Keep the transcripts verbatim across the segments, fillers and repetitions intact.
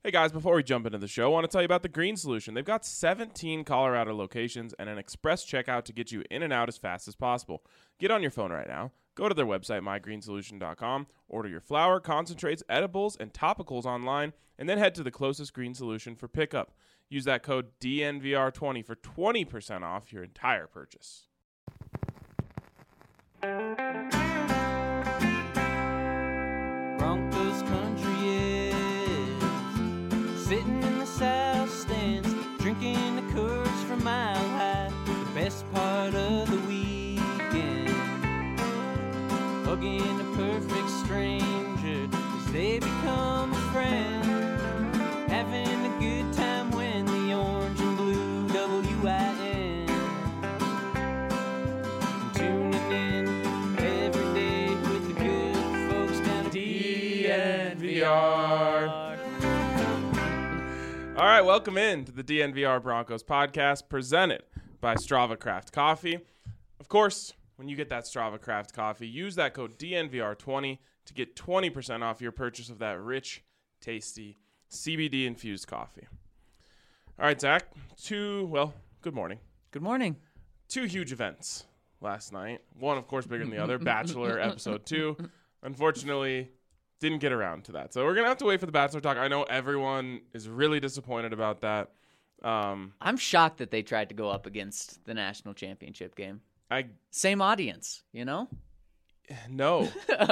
Hey guys, before we jump into the show, I want to tell you about the Green Solution. They've got seventeen Colorado locations and an express checkout to get you in and out as fast as possible. Get on your phone right now. Go to their website, my green solution dot com, order your flour, concentrates, edibles, and topicals online, and then head to the closest Green Solution for pickup. Use that code D N V R twenty for twenty percent off your entire purchase. Broncos country is sitting in the south stands, drinking the Coors from Mile High. The best part of the weekend, hugging a perfect stranger as they become a friend, having a good time when the orange and blue W I N, tuning in every day with the good folks down at D N V R. All right, welcome in to the D N V R Broncos podcast presented by Strava Craft Coffee. Of course, when you get that Strava Craft Coffee, use that code D N V R twenty to get twenty percent off your purchase of that rich, tasty C B D-infused coffee. All right, Zach, two, well, good morning. Good morning. Two huge events last night. One, of course, bigger than the other, Bachelor episode two. Unfortunately, didn't get around to that. So we're going to have to wait for the Bachelor talk. I know everyone is really disappointed about that. Um, I'm shocked that they tried to go up against the national championship game. I Same audience, you know? No.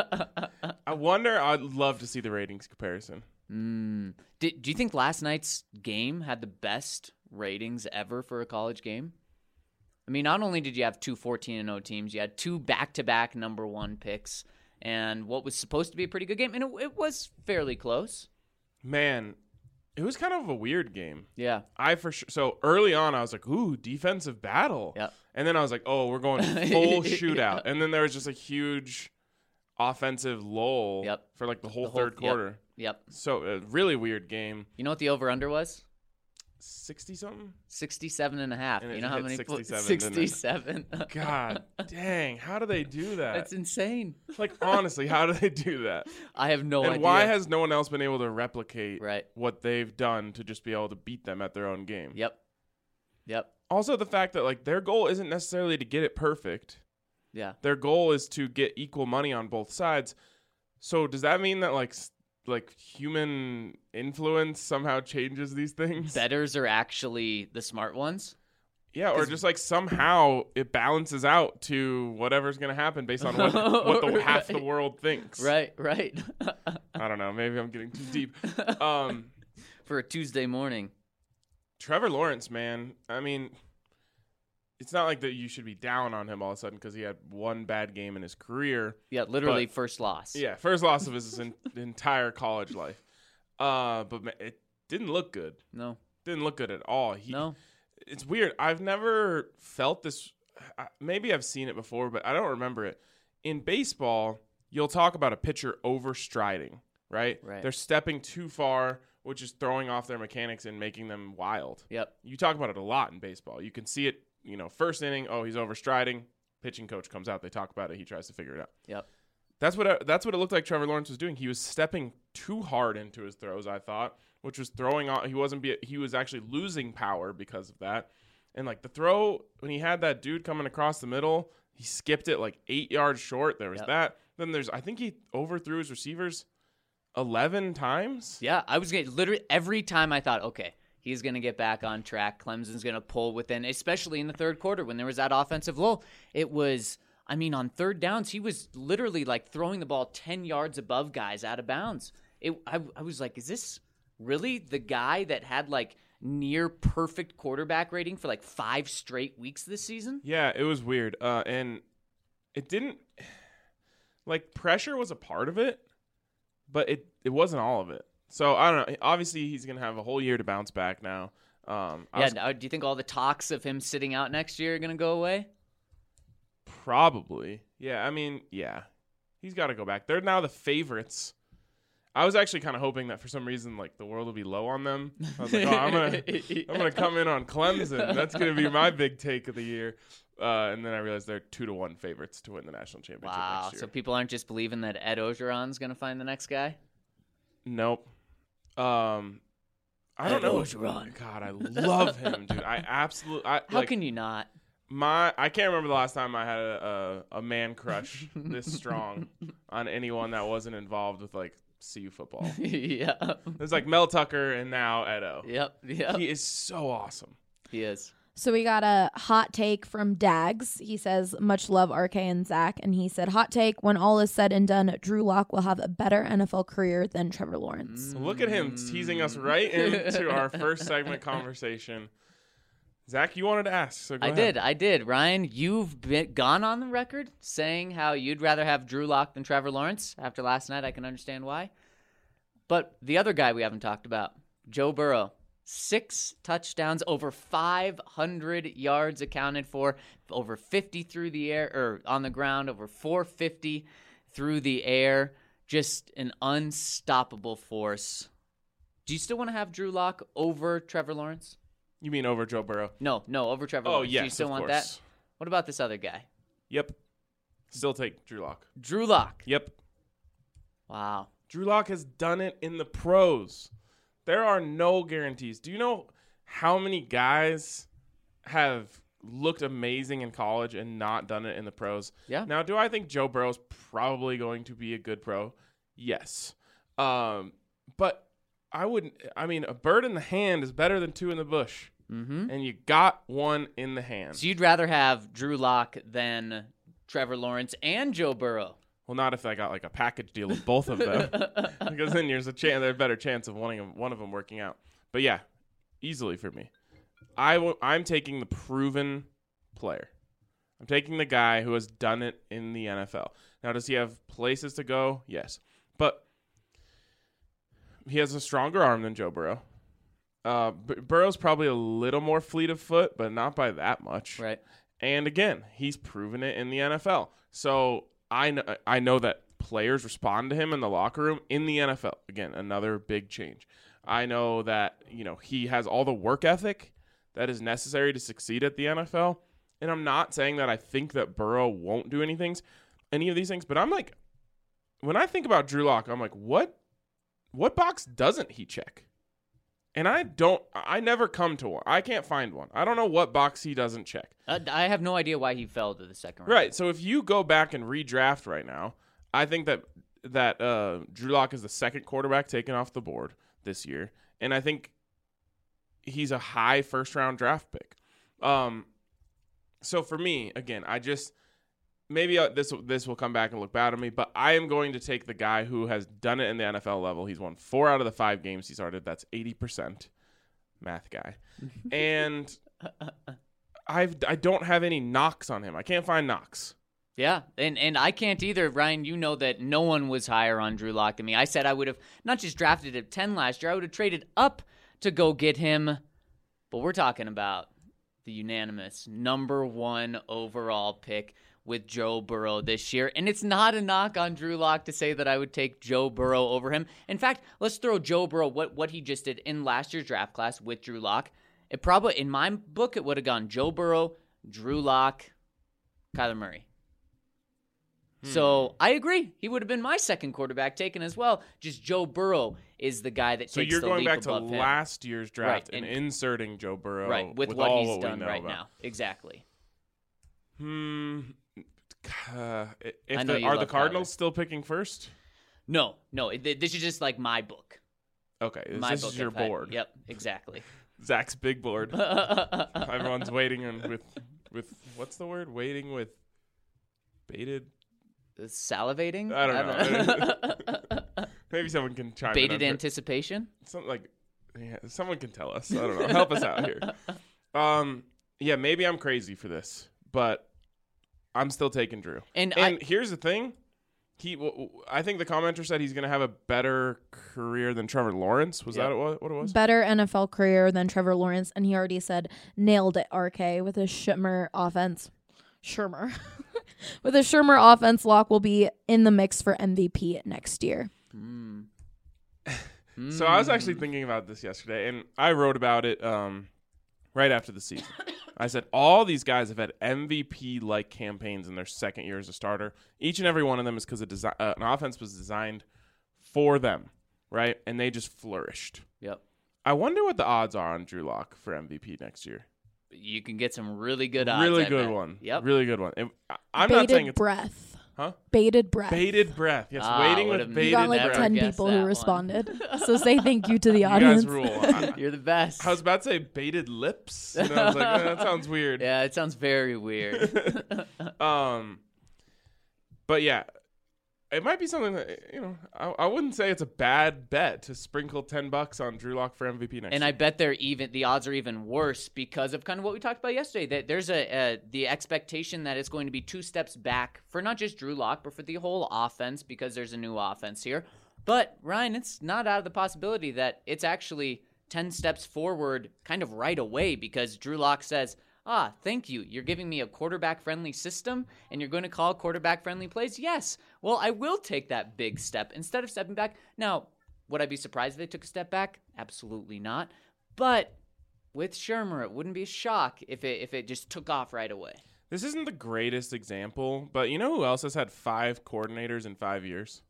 I wonder, I'd love to see the ratings comparison. Mm. Did, do you think last night's game had the best ratings ever for a college game? I mean, not only did you have two fourteen and oh teams, you had two back-to-back number one picks, and what was supposed to be a pretty good game, and it, it was fairly close. Man, it was kind of a weird game. Yeah. I for sure. So early on, I was like, ooh, defensive battle. Yep. And then I was like, oh, we're going full shootout. And then there was just a huge offensive lull Yep. for like the whole, The whole- third quarter. Yep. So a really weird game. You know what the over-under was? sixty-something? sixty-seven and a half. And it You know how hit many? sixty-seven, sixty-seven. God dang. How do they do that? That's insane. Like, honestly, how do they do that? I have no and idea. why has no one else been able to replicate Right. what they've done to just be able to beat them at their own game? Yep. Yep. Also, the fact that, like, their goal isn't necessarily to get it perfect. Yeah. Their goal is to get equal money on both sides. So does that mean that, like, s- like human influence somehow changes these things? Betters are actually the smart ones. Yeah, or 'Cause- just like somehow it balances out to whatever's going to happen based on what, what the, half the Right. world thinks. Right, right. I don't know. Maybe I'm getting too deep. Um, For a Tuesday morning. Trevor Lawrence, man. I mean, it's not like that you should be down on him all of a sudden because he had one bad game in his career. Yeah, literally But- first loss. Yeah, first loss of his en- entire college life. Uh, but ma- it didn't look good. No, Didn't look good at all. He, no. It's weird. I've never felt this. I- Maybe I've seen it before, but I don't remember it. In baseball, you'll talk about a pitcher overstriding, right? Right. They're stepping too far, which is throwing off their mechanics and making them wild. Yep. You talk about it a lot in baseball. You can see it, you know, first inning, oh, he's overstriding. Pitching coach comes out. They talk about it. He tries to figure it out. Yep. That's what I, that's what it looked like Trevor Lawrence was doing. He was stepping too hard into his throws, I thought, which was throwing off. He wasn't be, he was actually losing power because of that. And like the throw when he had that dude coming across the middle, he skipped it like eight yards short. There was Yep. that. Then there's I think he overthrew his receivers eleven times. Yeah, I was getting literally every time I thought, okay, he's going to get back on track. Clemson's going to pull within, especially in the third quarter when there was that offensive lull. It was, I mean, on third downs, he was literally like throwing the ball ten yards above guys out of bounds. It, I, I was like, is this really the guy that had like near perfect quarterback rating for like five straight weeks this season? Yeah, it was weird. Uh, and it didn't like pressure was a part of it, but it, it wasn't all of it. So I don't know. Obviously, he's gonna have a whole year to bounce back now. Um, I Yeah. was Now, do you think all the talks of him sitting out next year are going to go away? probably. Yeah, I mean, yeah, he's got to go back. They're now the favorites. I was actually kind of hoping that for some reason, like the world would be low on them. I was like, oh, I'm gonna, I'm gonna come in on Clemson. That's gonna be my big take of the year. Uh, and then I realized they're two to one favorites to win the national championship Wow. next year. So people aren't just believing that Ed Ogeron's going to find the next guy? Nope. Um, I don't know. Orgeron. God, I love him, dude. I absolutely. I, How like, can you not? My, I can't remember the last time I had a, a, a man crush this strong on anyone that wasn't involved with like C U football. Yeah. There's like Mel Tucker and now Edo. Yep. Yep. He is so awesome. He is. So we got a hot take from Dags. He says, much love, R K and Zach. And he said, hot take, when all is said and done, Drew Lock will have a better N F L career than Trevor Lawrence. Look at him teasing us right into our first segment conversation. Zach, you wanted to ask, so go I ahead. did. I did. Ryan, you've been, gone on the record saying how you'd rather have Drew Lock than Trevor Lawrence. After last night, I can understand why. But the other guy we haven't talked about, Joe Burrow. Six touchdowns, over five hundred yards accounted for, over fifty through the air, or on the ground, over four fifty through the air. Just an unstoppable force. Do you still want to have Drew Lock over Trevor Lawrence? You mean over Joe Burrow? No, no, over Trevor Oh, Lawrence. yes, Do you still of want course. that? What about this other guy? Yep. Still take Drew Lock. Drew Lock. Yep. Wow. Drew Lock has done it in the pros. There are no guarantees. Do you know how many guys have looked amazing in college and not done it in the pros? Yeah. Now, do I think Joe Burrow's probably going to be a good pro? Yes. Um, but I wouldn't. I mean, a bird in the hand is better than two in the bush. Mm-hmm. And you got one in the hand. So you'd rather have Drew Lock than Trevor Lawrence and Joe Burrow? Well, not if I got like a package deal of both of them, because then there's a chance, there's a better chance of one of them, one of them working out. But yeah, easily for me. I w- I'm taking the proven player. I'm taking the guy who has done it in the N F L. Now, does he have places to go? Yes, but he has a stronger arm than Joe Burrow. Uh, B- Burrow's probably a little more fleet of foot, but not by that much. Right. And again, he's proven it in the N F L. So I know, I know that players respond to him in the locker room in the N F L. Again, another big change. I know that, you know, he has all the work ethic that is necessary to succeed at the N F L. And I'm not saying that I think that Burrow won't do any things, any of these things, but I'm like, when I think about Drew Lock, I'm like, what, what box doesn't he check? And I don't, I never come to one. I can't find one. I don't know what box he doesn't check. Uh, I have no idea why he fell to the second round. Right. So if you go back and redraft right now, I think that that uh, Drew Lock is the second quarterback taken off the board this year, and I think he's a high first round draft pick. Um, so for me, again, I just maybe uh, this this will come back and look bad on me, but I am going to take the guy who has done it in the N F L level. He's won four out of the five games he started. That's eighty percent. Math guy, and I've I don't have any knocks on him. I can't find knocks. Yeah, and and I can't either, Ryan. You know that no one was higher on Drew Lock than me. I said I would have not just drafted at ten last year, I would have traded up to go get him. But we're talking about the unanimous number one overall pick with Joe Burrow this year. And it's not a knock on Drew Lock to say that I would take Joe Burrow over him. In fact, let's throw Joe Burrow, what, what he just did in last year's draft class with Drew Lock. It probably, in my book, it would have gone Joe Burrow, Drew Lock, Kyler Murray. So I agree. He would have been my second quarterback taken as well. Just Joe Burrow is the guy that So takes you're the going leap back to above him. last year's draft Right, and, and- inserting Joe Burrow Right, with, with what all he's what we done know right about. now. Exactly. Hmm. Uh, if I know the, you are the love Cardinals Kyler. still picking first? No, no. it- This is just like my book. Okay, this, My this book. is your if I- board. Yep, exactly. Zach's big board. Everyone's waiting and with with what's the word? Waiting with bated. Salivating? I don't know. Maybe someone can chime Bated in. on- anticipation? Something like, yeah, someone can tell us. I don't know. Help us out here. Um, yeah, maybe I'm crazy for this, but I'm still taking Drew. And, And I, here's the thing. He, w- w- I think the commenter said he's going to have a better career than Trevor Lawrence. Was Yeah. that what, what it was? Better N F L career than Trevor Lawrence, and he already said nailed it, R K, with his Shermer offense. Shermer. With his Shermer offense, Lock will be in the mix for M V P next year. Mm. So I was actually thinking about this yesterday, and I wrote about it um, right after the season. I said all these guys have had M V P-like campaigns in their second year as a starter. Each and every one of them is because desi- uh, an offense was designed for them, right? And they just flourished. Yep. I wonder what the odds are on Drew Lock for M V P next year. You can get some really good odds. Really I good bet. one. Yep. Really good one. And I- I'm bated not saying it's breath. Huh? Bated breath. Bated breath. Yes, Ah, waiting would've with never You bated got like breath. ten guessed people that who one. responded. So say thank you to the You audience. guys rule. I, You're the best. I was about to say bated lips. And I was like, eh, that sounds weird. Yeah, it sounds very weird. um, but yeah, it might be something that, you know, I, I wouldn't say it's a bad bet to sprinkle ten bucks on Drew Lock for M V P next And year. I bet they're even the odds are even worse because of kind of what we talked about yesterday. That there's a, a the expectation that it's going to be two steps back for not just Drew Lock, but for the whole offense because there's a new offense here. But Ryan, it's not out of the possibility that it's actually ten steps forward kind of right away because Drew Lock says, ah, thank you. You're giving me a quarterback-friendly system, and you're going to call quarterback-friendly plays? Yes. Well, I will take that big step instead of stepping back. Now, would I be surprised if they took a step back? Absolutely not. But with Shurmur, it wouldn't be a shock if it if it just took off right away. This isn't the greatest example, but you know who else has had five coordinators in five years?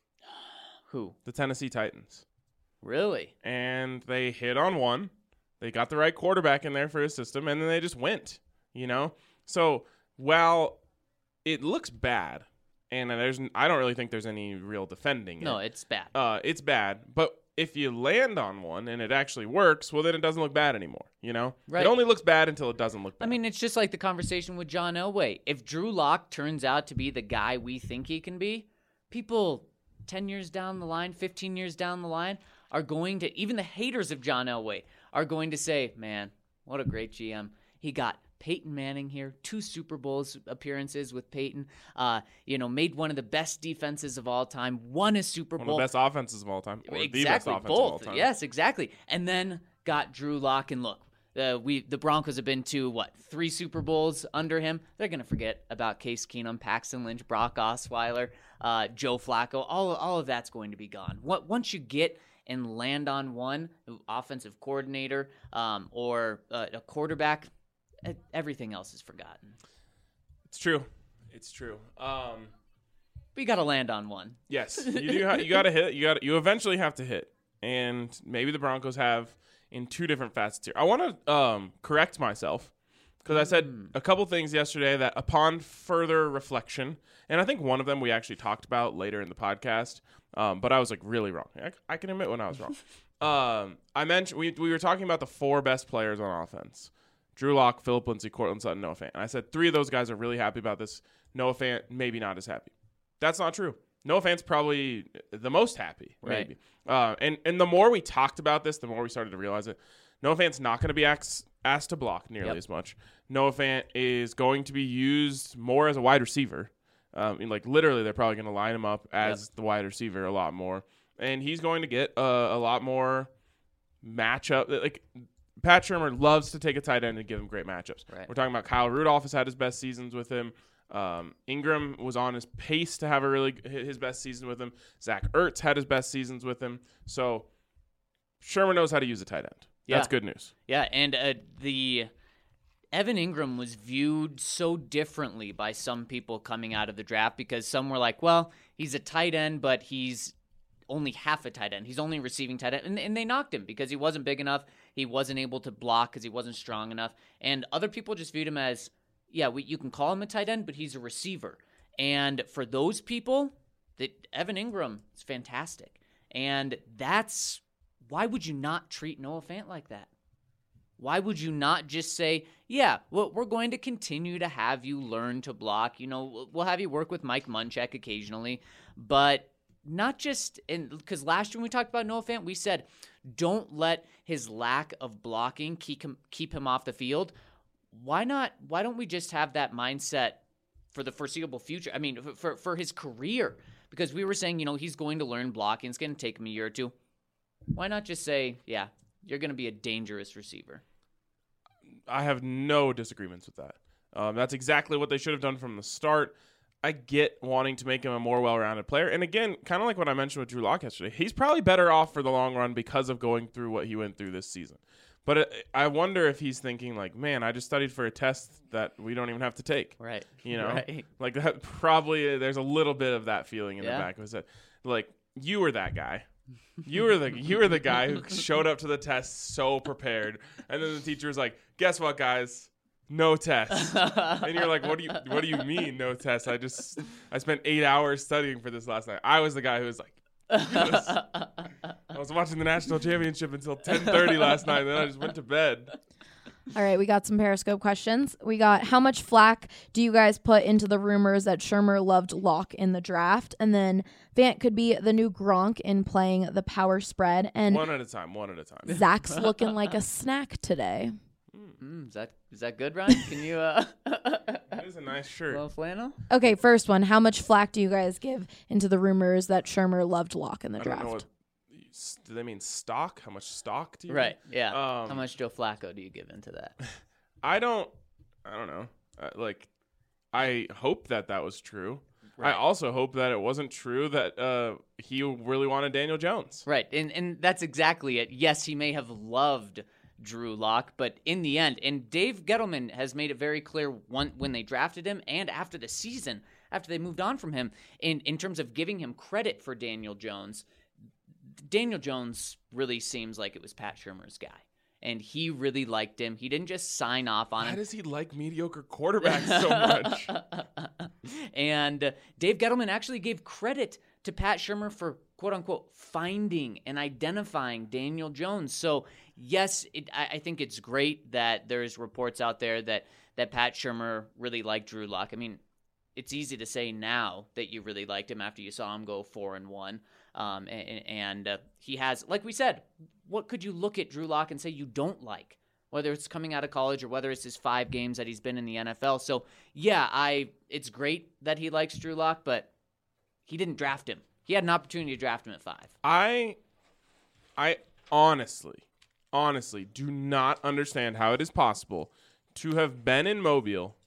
Who? The Tennessee Titans. Really? And they hit on one. They got the right quarterback in there for his system, and then they just went, you know? So while it looks bad, and there's I don't really think there's any real defending No, it. it's bad. Uh, it's bad. But if you land on one and it actually works, well, then it doesn't look bad anymore, you know? Right. It only looks bad until it doesn't look bad. I mean, it's just like the conversation with John Elway. If Drew Lock turns out to be the guy we think he can be, people ten years down the line, fifteen years down the line, are going to, even the haters of John Elway, are going to say, man, what a great G M. He got Peyton Manning here, two Super Bowls appearances with Peyton, uh, you know, made one of the best defenses of all time, won a Super one Bowl. of the best offenses of all time. Or exactly, the best offense both. of all time. Yes, exactly. And then got Drew Lock, and look, uh, we the Broncos have been to, what, three Super Bowls under him. They're going to forget about Case Keenum, Paxton Lynch, Brock Osweiler, uh, Joe Flacco. All, all of that's going to be gone. What, once you get and land on one offensive coordinator um, or uh, a quarterback, everything else is forgotten. It's true. It's true. Um, We got to land on one. yes, you do. Ha- you got to hit. You got. You eventually have to hit, and maybe the Broncos have in two different facets here. I want to um, correct myself because I said a couple things yesterday that, upon further reflection, and I think one of them we actually talked about later in the podcast. Um, but I was like really wrong. I, I can admit when I was wrong. um, I mentioned we we were talking about the four best players on offense: Drew Lock, Philip Lindsay, Cortland Sutton, Noah Fant. And I said three of those guys are really happy about this. Noah Fant maybe not as happy. That's not true. Noah Fant's probably the most happy, Right. maybe. Uh, and and the more we talked about this, the more we started to realize it. Noah Fant's not going to be asked asked to block nearly Yep. as much. Noah Fant is going to be used more as a wide receiver. Um, and like literally, they're probably going to line him up as Yep. the wide receiver a lot more, and he's going to get uh, a lot more matchup. Like Pat Shurmur loves to take a tight end and give him great matchups. Right. We're talking about Kyle Rudolph has had his best seasons with him. Um, Ingram was on his pace to have a really his best season with him. Zach Ertz had his best seasons with him. So Shurmur knows how to use a tight end. Yeah. That's good news. Yeah, and uh, the Evan Ingram was viewed so differently by some people coming out of the draft because some were like, well, he's a tight end, but he's only half a tight end. He's only receiving tight end. And, and they knocked him because he wasn't big enough. He wasn't able to block because he wasn't strong enough. And other people just viewed him as, yeah, we, you can call him a tight end, but he's a receiver. And for those people, that Evan Ingram is fantastic. And that's, why would you not treat Noah Fant like that? Why would you not just say, yeah, well, we're going to continue to have you learn to block. You know, we'll have you work with Mike Munchak occasionally, but not just in, because last year when we talked about Noah Fant, we said, don't let his lack of blocking keep him, keep him off the field. Why not? Why don't we just have that mindset for the foreseeable future? I mean, for, for his career, because we were saying, you know, he's going to learn blocking. It's going to take him a year or two. Why not just say, yeah, you're going to be a dangerous receiver? I have no disagreements with that. Um, that's exactly what they should have done from the start. I get wanting to make him a more well-rounded player. And again, kind of like what I mentioned with Drew Lock yesterday, he's probably better off for the long run because of going through what he went through this season. But it, I wonder if he's thinking like, man, I just studied for a test that we don't even have to take. Right. You know, Right. like that probably there's a little bit of that feeling in Yeah. the back of his head. Like you were that guy. You were the you were the guy who showed up to the test so prepared, and then the teacher was like, "Guess what, guys? No test." And you're like, "What do you What do you mean, no test? I just I spent eight hours studying for this last night." I was the guy who was like, "Yes." I was watching the national championship until ten thirty last night, and then I just went to bed. All right, we got some Periscope questions. We got, how much flack do you guys put into the rumors that Shermer loved Locke in the draft? And then Vant could be the new Gronk in playing the power spread. And One at a time, one at a time. Zach's looking like a snack today. Mm, is that is that good, Ryan? Can you uh That is a nice shirt. little flannel? Okay, first one. How much flack do you guys give into the rumors that Shermer loved Locke in the I don't draft? know what, do they mean stock? How much stock do you Right. Yeah. Um, How much Joe Flacco do you give into that? I don't, I don't know. Uh, like, I hope that that was true. Right. I also hope that it wasn't true that uh, he really wanted Daniel Jones. Right. And and that's exactly it. Yes, he may have loved Drew Lock, but in the end, and Dave Gettleman has made it very clear one, when they drafted him and after the season, after they moved on from him, in, in terms of giving him credit for Daniel Jones, Daniel Jones really seems like it was Pat Shurmur's guy. And he really liked him. He didn't just sign off on Why him. does he like mediocre quarterbacks so much? And uh, Dave Gettleman actually gave credit to Pat Shurmur for, quote unquote, finding and identifying Daniel Jones. So, yes, it, I, I think it's great that there's reports out there that, that Pat Shurmur really liked Drew Lock. I mean, it's easy to say now that you really liked him after you saw him go four and one. Um, and and uh, he has, like we said, what could you look at Drew Lock and say you don't like? Whether it's coming out of college or whether it's his five games that he's been in the N F L. So, yeah, I it's great that he likes Drew Lock, but he didn't draft him. He had an opportunity to draft him at five. I, I honestly, honestly do not understand how it is possible to have been in Mobile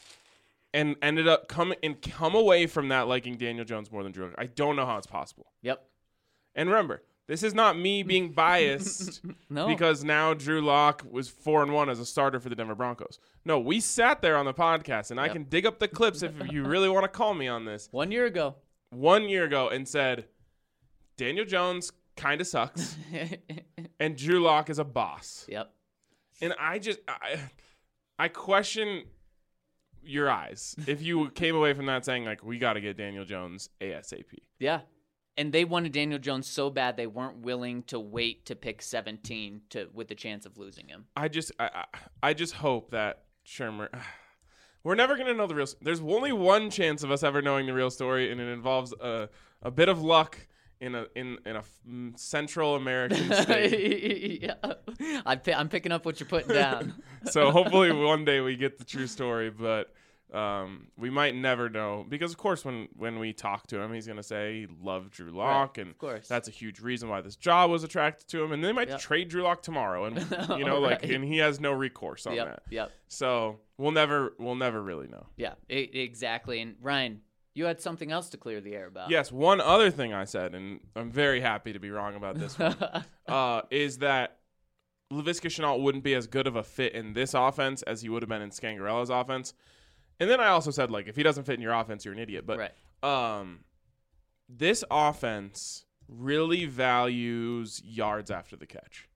and ended up come and come away from that liking Daniel Jones more than Drew Lock. I don't know how it's possible. Yep. And remember, this is not me being biased No. because now Drew Lock was four and one as a starter for the Denver Broncos. No, we sat there on the podcast, and I Yep. can dig up the clips if you really want to call me on this. One year ago. One year ago, and said Daniel Jones kind of sucks, and Drew Lock is a boss. Yep. And I just, I, I question your eyes if you came away from that saying like, we got to get Daniel Jones ASAP. Yeah. And they wanted Daniel Jones so bad they weren't willing to wait to pick seventeen to with the chance of losing him. I just, I, I, I just hope that Shermer. We're never gonna know the real. There's only one chance of us ever knowing the real story, and it involves a a bit of luck in a in in a f- Central American state. Yeah. I'm, pi- I'm picking up what you're putting down. So hopefully one day we get the true story, but um, we might never know because, of course, when when we talk to him, he's gonna say he loved Drew Lock, Right, and of course. that's a huge reason why this job was attracted to him, and they might Yep. trade Drew Lock tomorrow, and you know, like, Right. and he has no recourse on Yep. that. Yep. So we'll never we'll never really know. Yeah. E- exactly. And Ryan, you had something else to clear the air about. Yes, one other thing I said, and I'm very happy to be wrong about this one, uh, is that Laviska Shenault wouldn't be as good of a fit in this offense as he would have been in Scangarella's offense. And then I also said, like, if he doesn't fit in your offense, you're an idiot. But Right. um, this offense really values yards after the catch.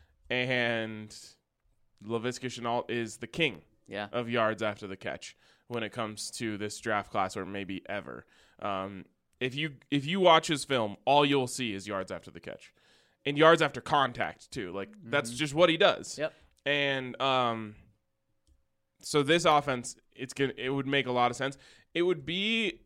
And Laviska Shenault is the king Yeah. of yards after the catch when it comes to this draft class, or maybe ever. Um, if you if you watch his film, all you'll see is yards after the catch, and yards after contact too. Like that's just what he does. Yep. And um, so this offense, it's gonna it would make a lot of sense. It would be,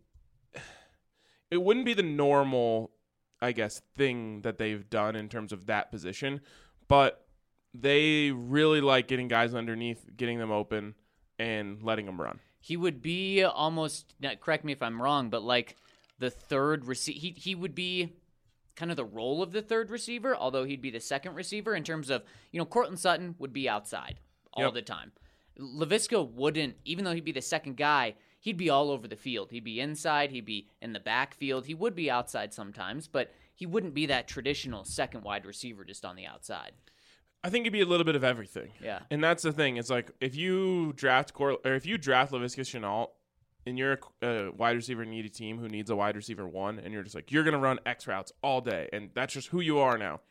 it wouldn't be the normal, I guess, thing that they've done in terms of that position, but they really like getting guys underneath, getting them open, and letting them run. He would be almost, now, correct me if I'm wrong, but like the third receiver, he, he would be kind of the role of the third receiver, although he'd be the second receiver in terms of, you know, Cortland Sutton would be outside all Yep. the time. Laviska wouldn't, even though he'd be the second guy, he'd be all over the field. He'd be inside, he'd be in the backfield, he would be outside sometimes, but he wouldn't be that traditional second wide receiver just on the outside. I think it'd be a little bit of everything. Yeah. And that's the thing. It's like if you draft Cor- or if you draft Laviska Shenault and you're a, a wide receiver needy team who needs a wide receiver one, and you're just like, you're going to run X routes all day, and that's just who you are now.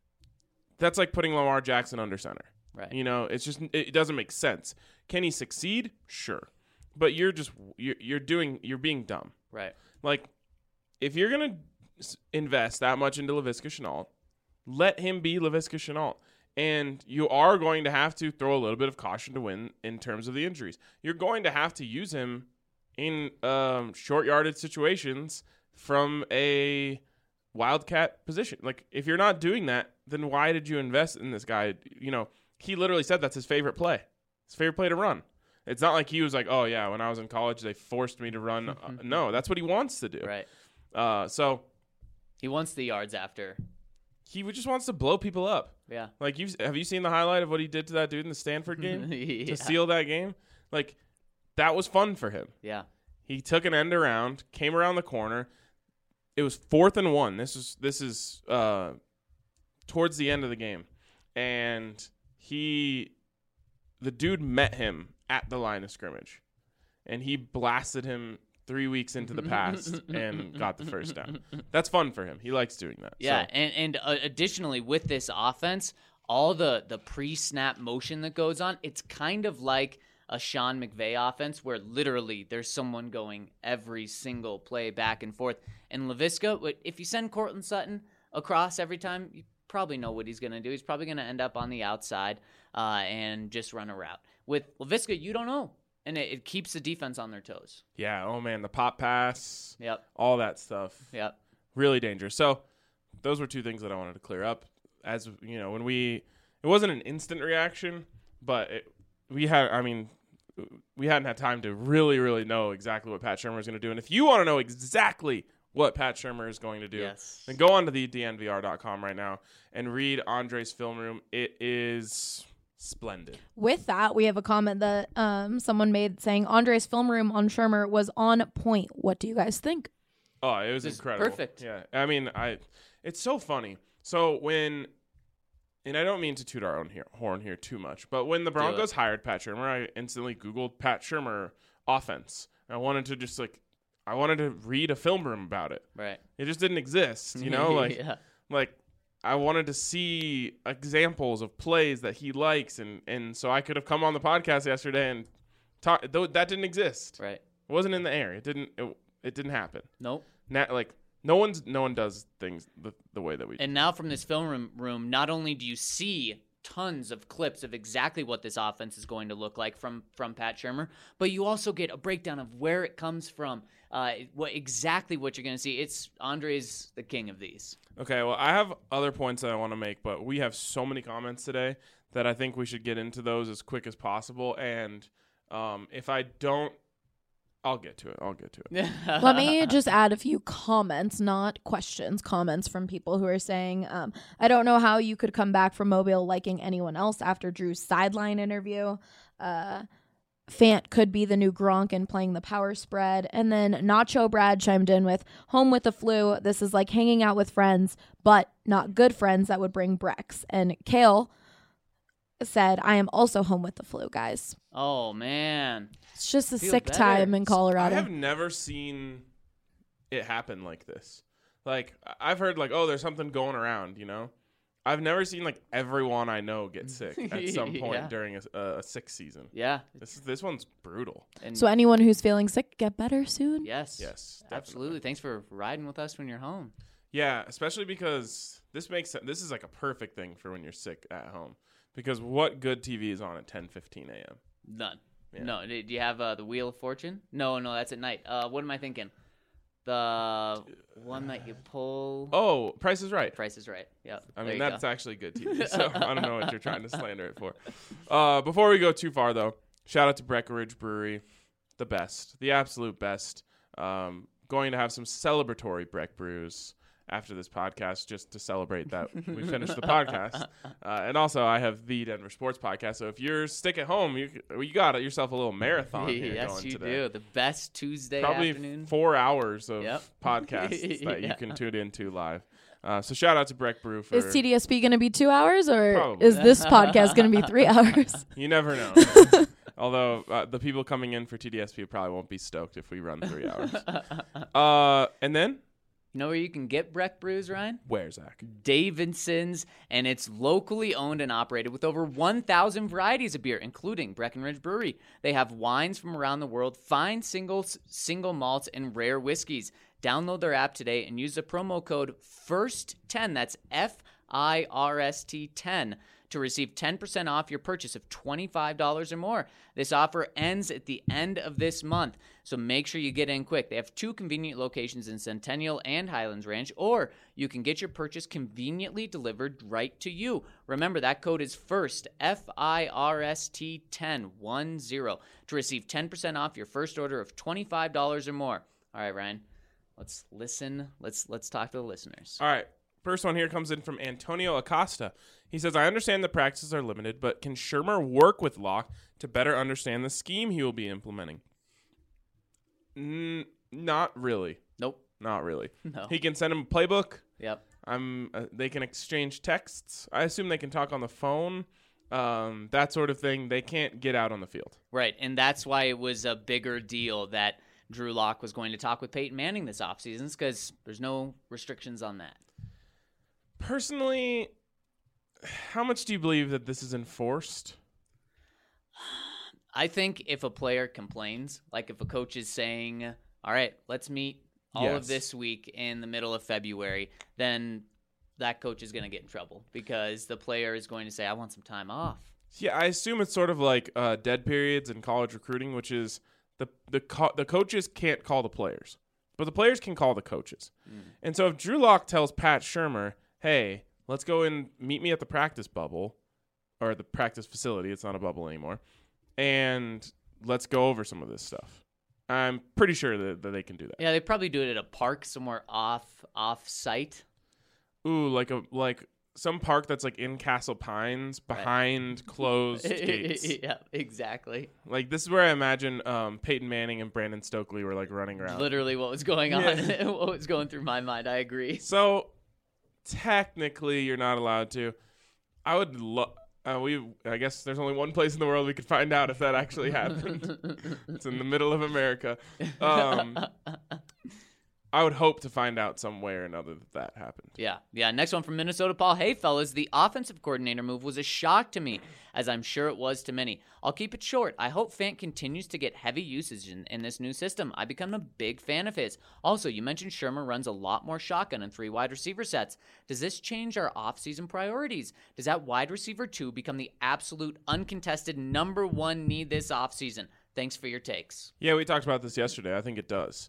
That's like putting Lamar Jackson under center. Right. You know, it's just, it doesn't make sense. Can he succeed? Sure. But you're just, you're, you're doing, you're being dumb. Right. Like, if you're going to invest that much into Laviska Shenault, let him be Laviska Shenault. And you are going to have to throw a little bit of caution to win in terms of the injuries. You're going to have to use him in um, short yardage situations from a wildcat position. Like, if you're not doing that, then why did you invest in this guy? You know, he literally said that's his favorite play. His favorite play to run. It's not like he was like, oh, yeah, when I was in college, they forced me to run. uh, no, that's what he wants to do. Right. Uh, so He wants the yards after. he would- just wants to blow people up. Yeah. Like, you have you seen the highlight of what he did to that dude in the Stanford game yeah. to seal that game? Like, that was fun for him. Yeah. He took an end around, came around the corner. It was fourth and one. This is this is uh, towards the end of the game, and he, the dude met him at the line of scrimmage, and he blasted him three weeks into the past and got the first down. That's fun for him. He likes doing that. Yeah, So, and and uh, additionally with this offense, all the the pre-snap motion that goes on, it's kind of like a Sean McVay offense where literally there's someone going every single play back and forth. And Laviska, if you send Cortland Sutton across every time, you probably know what he's going to do. He's probably going to end up on the outside uh, and just run a route. With Laviska, you don't know, and it, it keeps the defense on their toes. yeah, oh man, the pop pass, Yep, all that stuff. yep. Really dangerous. So those were two things that I wanted to clear up. As you know, when we, it wasn't an instant reaction, but it, we had, I mean, we hadn't had time to really, really know exactly what Pat Shurmur is going to do. And if you want to know exactly what Pat Shurmur is going to do, Yes. then go on to the D N V R dot com right now and read Andre's film room. It is splendid. With that, we have a comment that um, someone made saying Andre's film room on Shurmur was on point. What do you guys think? Oh, it was This is incredible. perfect. Yeah. I mean, I it's so funny. So when and I don't mean to toot our own here, horn here too much, but when the Broncos hired Pat Shurmur, I instantly Googled Pat Shurmur offense. I wanted to just like I wanted to read a film room about it. Right. It just didn't exist, you know, like yeah. like I wanted to see examples of plays that he likes, and and so I could have come on the podcast yesterday and talk. Though that didn't exist. Right. It wasn't in the air. It didn't. It, it didn't happen. Nope. Na- like no one's no one does things the, the way that we do. And now from this film room, room, not only do you see tons of clips of exactly what this offense is going to look like from from Pat Shurmur, but you also get a breakdown of where it comes from, uh, what exactly what you're going to see. It's Andre's the king of these. Okay, well, I have other points that I want to make, but we have so many comments today that I think we should get into those as quick as possible. And um, if I don't, I'll get to it. I'll get to it. Let me just add a few comments, not questions, comments from people who are saying, um, I don't know how you could come back from Mobile liking anyone else after Drew's sideline interview. Uh, Fant could be the new Gronk and playing the power spread. And then Nacho Brad chimed in with, home with the flu. This is like hanging out with friends, but not good friends that would bring Brex. And Kale said, I am also home with the flu, guys. Oh, man. It's just a Feel sick better. time in Colorado. I have never seen it happen like this. Like, I- I've heard, like, oh, there's something going around, you know? I've never seen, like, everyone I know get sick at some point Yeah. during a, a, a sick season. Yeah. This this one's brutal. And So anyone who's feeling sick, get better soon. yes. Yes, definitely. Absolutely. Thanks for riding with us when you're home. Yeah, especially because this makes sense. This is like a perfect thing for when you're sick at home. Because what good T V is on at ten fifteen a.m.? None. Yeah. No. Do do you have uh, the Wheel of Fortune? No, no, that's at night. Uh, what am I thinking? The one that you pull. Oh, Price is Right. Price is Right. Yep. I There mean, you that's go. actually good T V. So I don't know what you're trying to slander it for. Uh, before we go too far, though, shout out to Breckenridge Brewery, the best, the absolute best. Um, going to have some celebratory Breck brews after this podcast just to celebrate that we finished the podcast. Uh, and also, I have the Denver Sports Podcast. So if you're stick at home, you you got yourself a little marathon here yes, going you today. do. The best Tuesday Probably afternoon. four hours of Yep. podcasts that Yeah. you can tune into live. Uh, so shout out to Breck Brew for Is T D S P going to be two hours or Probably. is this podcast going to be three hours? you never know. Although uh, the people coming in for T D S P probably won't be stoked if we run three hours. uh, and then? You know where you can get Breck brews, Ryan? Where, Zach? Davidson's, and it's locally owned and operated with over one thousand varieties of beer, including Breckenridge Brewery. They have wines from around the world, fine singles, single malts, and rare whiskeys. Download their app today and use the promo code first ten, that's F I R S T ten, to receive ten percent off your purchase of twenty-five dollars or more. This offer ends at the end of this month, so make sure you get in quick. They have two convenient locations in Centennial and Highlands Ranch, or you can get your purchase conveniently delivered right to you. Remember, that code is FIRST, F I R S T ten, one zero, to receive ten percent off your first order of twenty-five dollars or more. All right, Ryan, let's listen. Let's let's talk to the listeners. All right. First one here comes in from Antonio Acosta. He says, I understand the practices are limited, but can Shermer work with Locke to better understand the scheme he will be implementing? N- not really. Nope. Not really. No. He can send him a playbook. Yep. I'm. Uh, they can exchange texts. I assume they can talk on the phone. Um, that sort of thing. They can't get out on the field. Right, and that's why it was a bigger deal that Drew Lock was going to talk with Peyton Manning this offseason, because there's no restrictions on that. Personally, how much do you believe that this is enforced? I think if a player complains, like if a coach is saying, all right, let's meet all Yes. of this week in the middle of February, then that coach is going to get in trouble because the player is going to say, I want some time off. Yeah, I assume it's sort of like uh, dead periods in college recruiting, which is the the co- the coaches can't call the players, but the players can call the coaches. Mm. And so if Drew Lock tells Pat Shermer, hey, let's go and meet me at the practice bubble or the practice facility. It's not a bubble anymore. And let's go over some of this stuff. I'm pretty sure that, that they can do that. Yeah, they probably do it at a park somewhere off off site. Ooh, like a like some park that's like in Castle Pines behind right. closed gates. Yeah, exactly. Like this is where I imagine um, Peyton Manning and Brandon Stokely were like running around. Literally what was going on, yeah. What was going through my mind. I agree. So technically, you're not allowed to. I would love. Uh, we. I guess there's only one place in the world we could find out if that actually happened. It's in the middle of America. Um, I would hope to find out some way or another that that happened. Yeah, yeah. Next one from Minnesota, Paul. Hey, fellas, the offensive coordinator move was a shock to me, as I'm sure it was to many. I'll keep it short. I hope Fant continues to get heavy usage in, in this new system. I become a big fan of his. Also, you mentioned Shermer runs a lot more shotgun and three wide receiver sets. Does this change our offseason priorities? Does that wide receiver two become the absolute uncontested number one need this offseason? Thanks for your takes. Yeah, we talked about this yesterday. I think it does.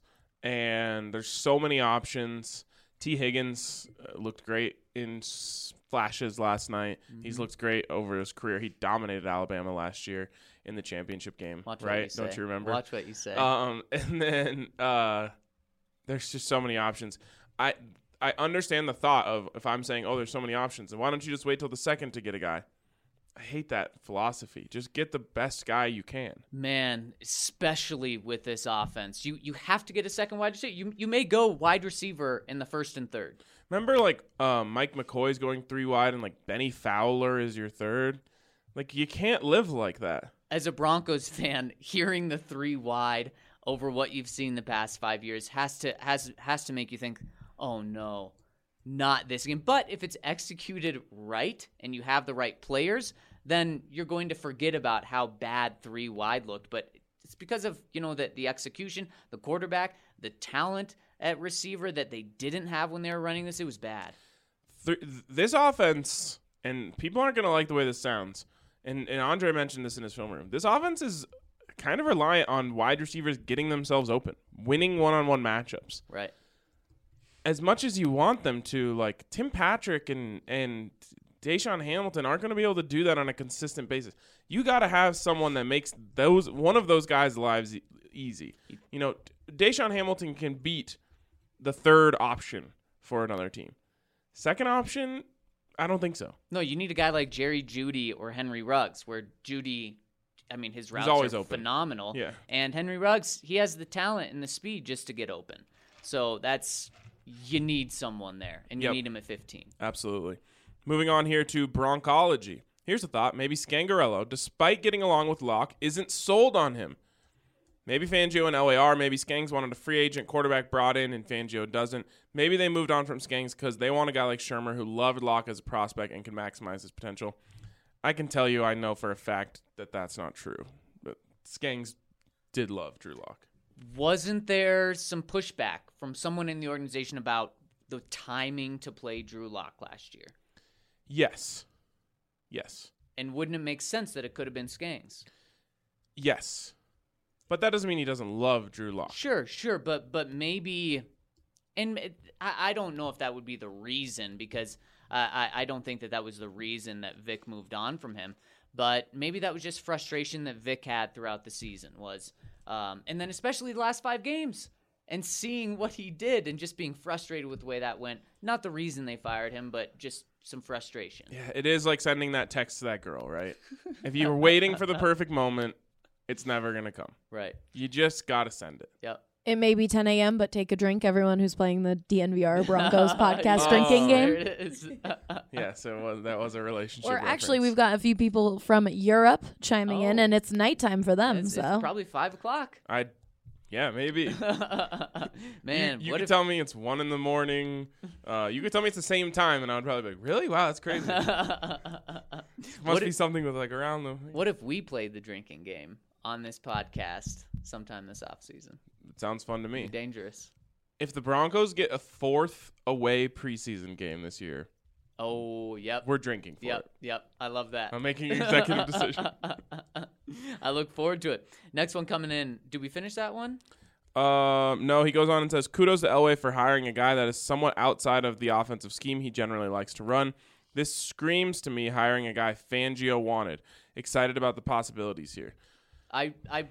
And there's so many options. T. Higgins uh, looked great in s- flashes last night. Mm-hmm. He's looked great over his career. He dominated Alabama last year in the championship game. Watch right? You Don't you remember? Watch what you say. Um, and then uh, there's just so many options. I I understand the thought of if I'm saying, oh, there's so many options, and why don't you just wait till the second to get a guy? I hate that philosophy. Just get the best guy you can. Man, especially with this offense, you you have to get a second wide receiver. You you may go wide receiver in the first and third. Remember, like um, Mike McCoy's going three wide, and like Benny Fowler is your third. Like you can't live like that. As a Broncos fan, hearing the three wide over what you've seen the past five years has to has has to make you think, oh no. Not this again. But if it's executed right and you have the right players, then you're going to forget about how bad three wide looked. But it's because of, you know, the, the execution, the quarterback, the talent at receiver that they didn't have when they were running this. It was bad. Th- this offense, and people aren't going to like the way this sounds, and, and Andre mentioned this in his film room, this offense is kind of reliant on wide receivers getting themselves open, winning one-on-one matchups. Right. As much as you want them to, like Tim Patrick and and Deshaun Hamilton aren't going to be able to do that on a consistent basis. You got to have someone that makes those one of those guys' lives e- easy. You know, Deshaun Hamilton can beat the third option for another team. Second option, I don't think so. No, you need a guy like Jerry Jeudy or Henry Ruggs, where Jeudy, I mean, his routes always are open. phenomenal. Yeah. And Henry Ruggs, he has the talent and the speed just to get open. So that's... You need someone there, and you Yep. need him at fifteen. Absolutely. Moving on here to Broncology. Here's a thought. Maybe Scangarello, despite getting along with Locke, isn't sold on him. Maybe Fangio and Elway are. Maybe Skangs wanted a free agent quarterback brought in and Fangio doesn't. Maybe they moved on from Skangs because they want a guy like Shermer who loved Locke as a prospect and can maximize his potential. I can tell you I know for a fact that that's not true. But Skangs did love Drew Lock. Wasn't there some pushback from someone in the organization about the timing to play Drew Lock last year? Yes. Yes. And wouldn't it make sense that it could have been Skangs? Yes. But that doesn't mean he doesn't love Drew Lock. Sure, sure, but but maybe, and it, I, I don't know if that would be the reason because uh, I I don't think that that was the reason that Vic moved on from him. But maybe that was just frustration that Vic had throughout the season was, um, and then especially the last five games and seeing what he did and just being frustrated with the way that went. Not the reason they fired him, but just some frustration. Yeah, it is like sending that text to that girl, right? If you were waiting for the perfect moment, it's never going to come. Right. You just got to send it. Yep. It may be ten a.m., but take a drink, everyone who's playing the D N V R Broncos podcast Oh. drinking There game. it is. Yes, it was. That was a relationship. Or actually, we've reference. got a few people from Europe chiming in, Oh. and it's nighttime for them. it's, so it's probably five o'clock. I, yeah, maybe. Man, you you what could if tell me it's one in the morning. Uh, you could tell me it's the same time, and I would probably be like, "Really? Wow, that's crazy." Must What be if- something with like around the. what if we played the drinking game on this podcast sometime this off season? It sounds fun to me. Dangerous. If the Broncos get a fourth away preseason game this year, Oh, yep. we're drinking for Yep, it. yep. I love that. I'm making an executive decision. I look forward to it. Next one coming in. Did we finish that one? Um, no, he goes on and says, kudos to Elway for hiring a guy that is somewhat outside of the offensive scheme he generally likes to run. This screams to me hiring a guy Fangio wanted. Excited about the possibilities here. I I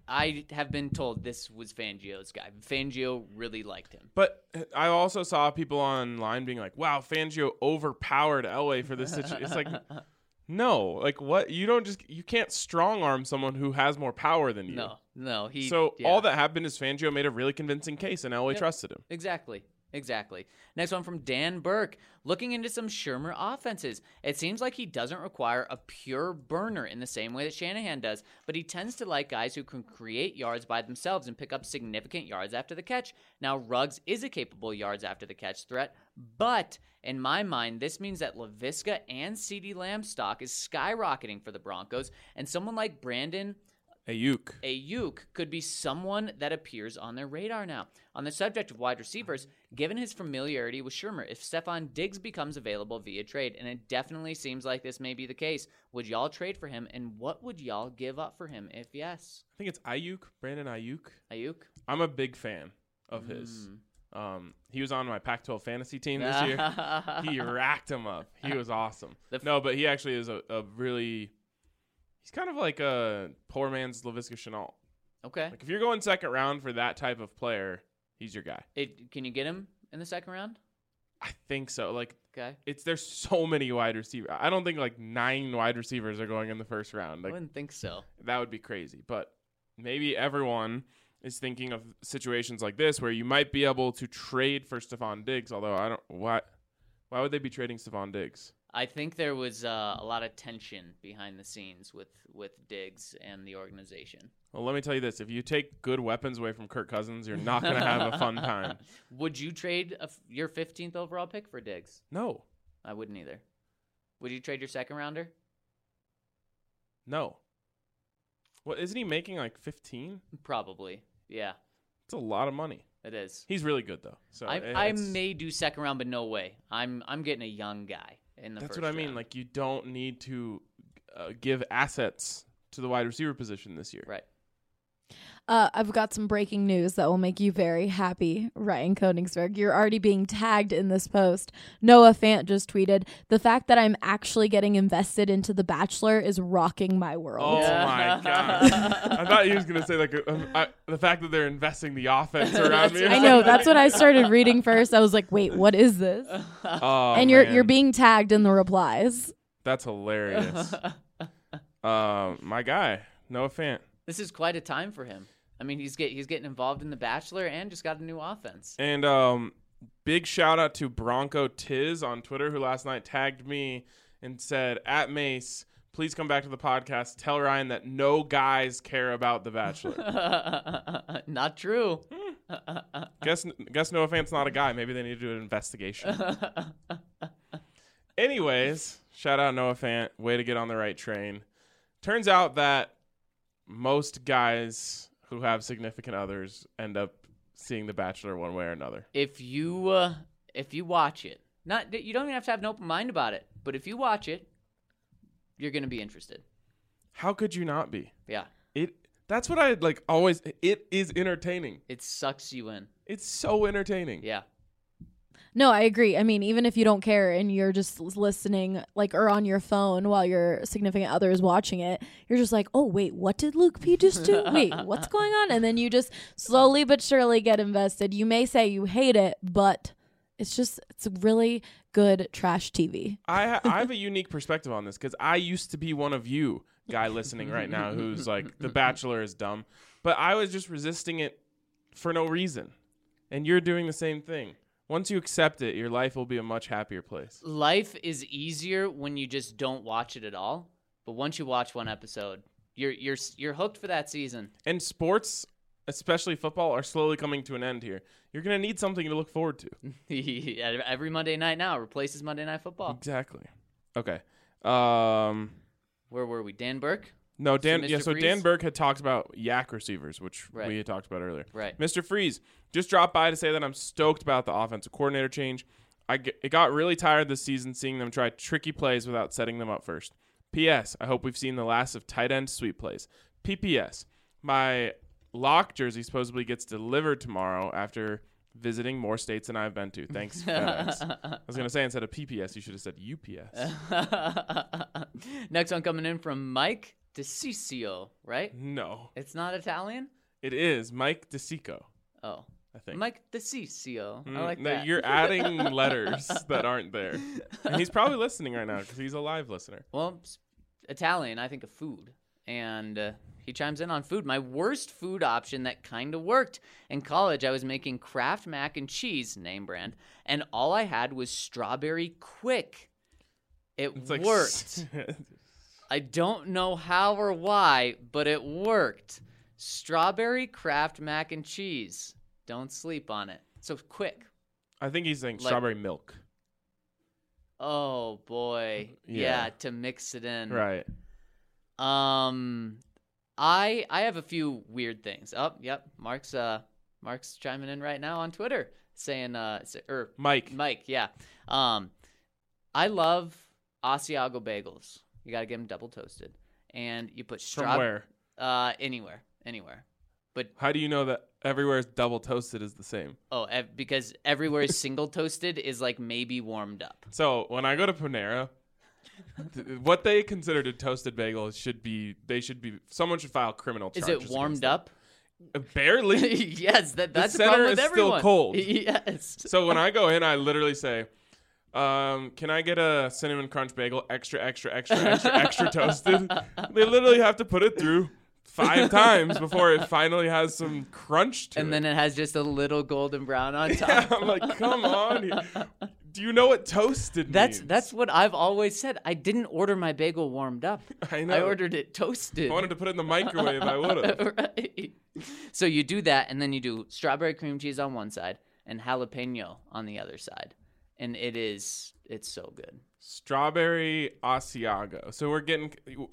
I have been told this was Fangio's guy. Fangio really liked him. But I also saw people online being like, wow, Fangio overpowered Elway for this situation. It's like, no, like what? You don't just, you can't strong arm someone who has more power than you. No, no. He. So yeah. all that happened is Fangio made a really convincing case and Elway Yep. trusted him. Exactly. Exactly. Next one from Dan Burke. Looking into some Shermer offenses. It seems like he doesn't require a pure burner in the same way that Shanahan does, but he tends to like guys who can create yards by themselves and pick up significant yards after the catch. Now, Ruggs is a capable yards after the catch threat, but in my mind, this means that LaVisca and CeeDee Lamb's stock is skyrocketing for the Broncos, and someone like Brandon Ayuk. Ayuk could be someone that appears on their radar now. On the subject of wide receivers, given his familiarity with Shermer, if Stephon Diggs becomes available via trade, and it definitely seems like this may be the case, would y'all trade for him, and what would y'all give up for him if yes? I think it's Ayuk, Brandon Ayuk. Ayuk? I'm a big fan of his. Mm. Um, he was on my Pac twelve fantasy team this year. He racked him up. He was awesome. The f- No, but he actually is a, a really. He's kind of like a poor man's Laviska Shenault. Okay. Like if you're going second round for that type of player, he's your guy. It, can you get him in the second round? I think so. Like Okay. it's there's so many wide receivers. I don't think like nine wide receivers are going in the first round. I Like wouldn't think so. that would be crazy. But maybe everyone is thinking of situations like this where you might be able to trade for Stephon Diggs. Although I don't why why would they be trading Stephon Diggs? I think there was uh, a lot of tension behind the scenes with, with Diggs and the organization. Well, let me tell you this: if you take good weapons away from Kirk Cousins, you're not going to have a fun time. Would you trade a f- your fifteenth overall pick for Diggs? No, I wouldn't either. Would you trade your second rounder? no. What isn't he making like fifteen? Probably. Yeah, It's a lot of money. it is. He's really good though. So I, it- I it's- may do second round, but no way. I'm I'm getting a young guy in the That's first what I mean. round. Like you don't need to uh, give assets to the wide receiver position this year. Right. Uh, I've got some breaking news that will make you very happy, Ryan Koenigsberg. You're already being tagged in this post. Noah Fant just tweeted, the fact that I'm actually getting invested into The Bachelor is rocking my world. Oh my god! I thought he was gonna say like um, I, the fact that they're investing the offense around me. or I know, something. that's what I started reading first. I was like, wait, what is this? Oh, and you're man. you're being tagged in the replies. That's hilarious. um, my guy, Noah Fant. This is quite a time for him. I mean, he's get he's getting involved in The Bachelor and just got a new offense. And um, big shout out to Bronco Tiz on Twitter, who last night tagged me and said, at Mace, please come back to the podcast. Tell Ryan that no guys care about The Bachelor. Not true. guess guess Noah Fant's not a guy. Maybe they need to do an investigation. Anyways, shout out Noah Fant. Way to get on the right train. Turns out that most guys who have significant others end up seeing The Bachelor one way or another. If you uh, if you watch it, not you don't even have to have an open mind about it, but if you watch it, you're gonna be interested. How could you not be? Yeah, It that's what I like always. It is entertaining. it sucks you in. It's so entertaining. Yeah. No, I agree. I mean, even if you don't care and you're just listening, like, or on your phone while your significant other is watching it, you're just like, oh, wait, what did Luke P just do? Wait, what's going on? And then you just slowly but surely get invested. You may say you hate it, but it's just, it's really good trash T V. I ha- I have a unique perspective on this because I used to be one of you, guy listening right now, who's like, The Bachelor is dumb. But I was just resisting it for no reason. And you're doing the same thing. Once you accept it, your life will be a much happier place. Life is easier when you just don't watch it at all. But once you watch one episode, you're you're you're hooked for that season. And sports, especially football, are slowly coming to an end here. You're going to need something to look forward to. Every Monday night now replaces Monday Night Football. Exactly. Okay. Um, Where were we? Dan Burke? no, Dan. Mister Yeah, so Freeze? Dan Burke had talked about yak receivers, which Right. we had talked about earlier. Right. Mister Freeze just dropped by to say that I'm stoked about the offensive coordinator change. I get, it got really tired this season seeing them try tricky plays without setting them up first. P S. I hope we've seen the last of tight end sweep plays. P P S. My lock jersey supposedly gets delivered tomorrow after visiting more states than I've been to. Thanks, FedEx. I was going to say instead of P P S, you should have said U P S. Next one coming in from Mike DeCiccio, right? No, It's not Italian? it is Mike DeSico, Oh. I think. Mike DeCiccio. I Mm, like no, that. You're adding letters that aren't there. And he's probably listening right now because he's a live listener. Well, s- Italian, I think of food. And uh, he chimes in on food. My worst food option that kind of worked. In college, I was making Kraft mac and cheese, name brand, and all I had was strawberry quick. It It's like worked. I don't know how or why, but it worked. Strawberry Kraft mac and cheese. Don't sleep on it. So quick. I think he's saying Like- strawberry milk. Oh boy. Yeah. Yeah, to mix it in. Right. Um I I have a few weird things. Oh, yep. Mark's uh Mark's chiming in right now on Twitter saying uh s- or Mike. Mike, yeah. Um I love Asiago bagels. You got to get them double toasted. And you put From straw where? uh anywhere, anywhere. But How do you know that everywhere is double toasted is the same? oh, ev- because everywhere is single toasted is like maybe warmed up. So when I go to Panera, th- what they consider a toasted bagel should be, they should be, someone should file criminal Is charges. it warmed against up? them. Uh, Barely. Yes, that that's the, center problem with is still everyone. cold. Yes. So when I go in, I literally say, um, can I get a cinnamon crunch bagel, extra, extra, extra, extra, extra toasted? They literally have to put it through five times before it finally has some crunch to And it. then it has just a little golden brown on top. Yeah, I'm like, come on. Do you know what toasted That's means? that's what I've always said. I didn't order my bagel warmed up. I know. I ordered it toasted. If I wanted to put it in the microwave, I would have. Right. So you do that, and then you do strawberry cream cheese on one side and jalapeno on the other side, and it is it's so good. Strawberry Asiago. So we're getting,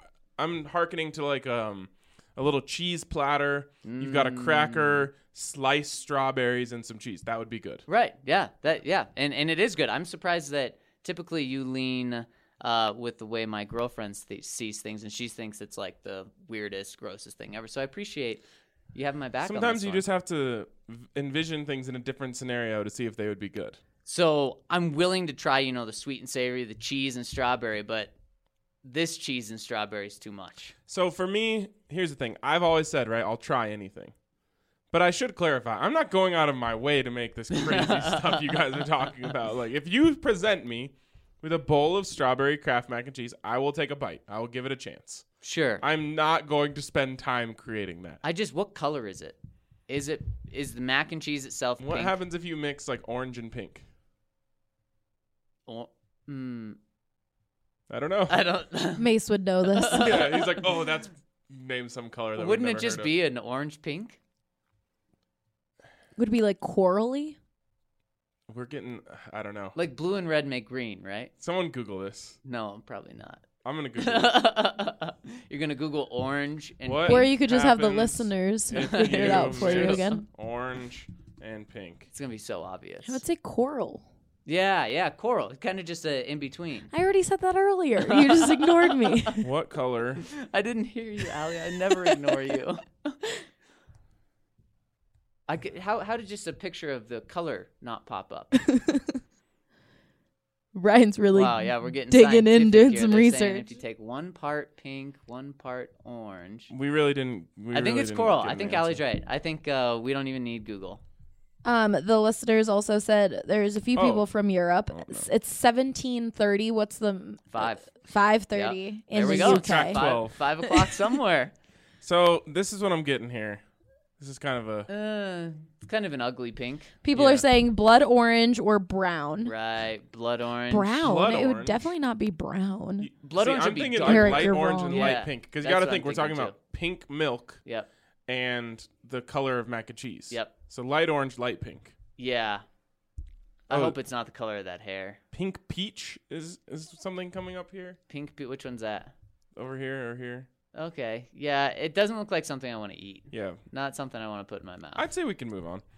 I'm hearkening to like um a little cheese platter. You've got a cracker, sliced strawberries, and some cheese. That would be good. Right? Yeah. That yeah, and and it is good. I'm surprised that typically you lean uh, with the way my girlfriend th- sees things, and she thinks it's like the weirdest, grossest thing ever. So I appreciate you having my back. on Sometimes this you one. just have to v- envision things in a different scenario to see if they would be good. So I'm willing to try, you know, the sweet and savory, the cheese and strawberry, but this cheese and strawberry is too much. So for me, here's the thing. I've always said, right, I'll try anything. But I should clarify, I'm not going out of my way to make this crazy stuff you guys are talking about. Like, if you present me with a bowl of strawberry Kraft mac and cheese, I will take a bite. I will give it a chance. Sure. I, I'm not going to spend time creating that. I just, what color is it? Is it is the mac and cheese itself What pink? happens if you mix, like, orange and pink? Or, mm, I don't know. I don't. Mace would know this. Yeah, he's like, oh, that's name some color. That Wouldn't we've it never just heard be an orange pink? Would it be like corally? of. We're getting. I don't know. Like blue and red make green, right? Someone Google this. No, probably not. I'm gonna Google it. You're gonna Google orange and What? Or you could just have the happens listeners if figure it out for you mix again. Orange and pink. It's gonna be so obvious. I would say coral. Yeah, yeah, coral. Kind of just a in between. I already said that earlier. You just ignored me. What color? I didn't hear you, Allie. I never ignore you. I could, how how did just a picture of the color not pop up? Ryan's really Wow, yeah, we're getting digging in, scientific doing here. some They're saying research. If you take one part pink, one part orange, We really didn't. We I think really it's didn't coral. give I an think answer. Allie's right. I think uh, we don't even need Google. Um, the listeners also said there's a few Oh. people from Europe. Oh, no. It's- It's seventeen thirty. What's the Five. Five thirty in There we the go. U Track K. twelve. twelve. Five, five o'clock somewhere. So this is what I'm getting here. This is kind of a. Uh, it's kind of an ugly pink. People Yeah. are saying blood orange or brown. Right. Blood orange. Brown. Blood it would orange. definitely not be brown. Blood See, orange I'm would be thinking dark. like Eric, light you're orange wrong. and Yeah, light pink because you that's got to what think I'm we're talking thinking, about pink milk Yep. and the color of mac and cheese. Yep. So light orange, light pink. Yeah. I Oh. hope it's not the color of that hair. Pink peach is is something coming up here, Pink. pe- Which one's that? over here, or here. Okay. Yeah. It doesn't look like something I want to eat. Yeah, Not something I want to put in my mouth. I'd say we can move on.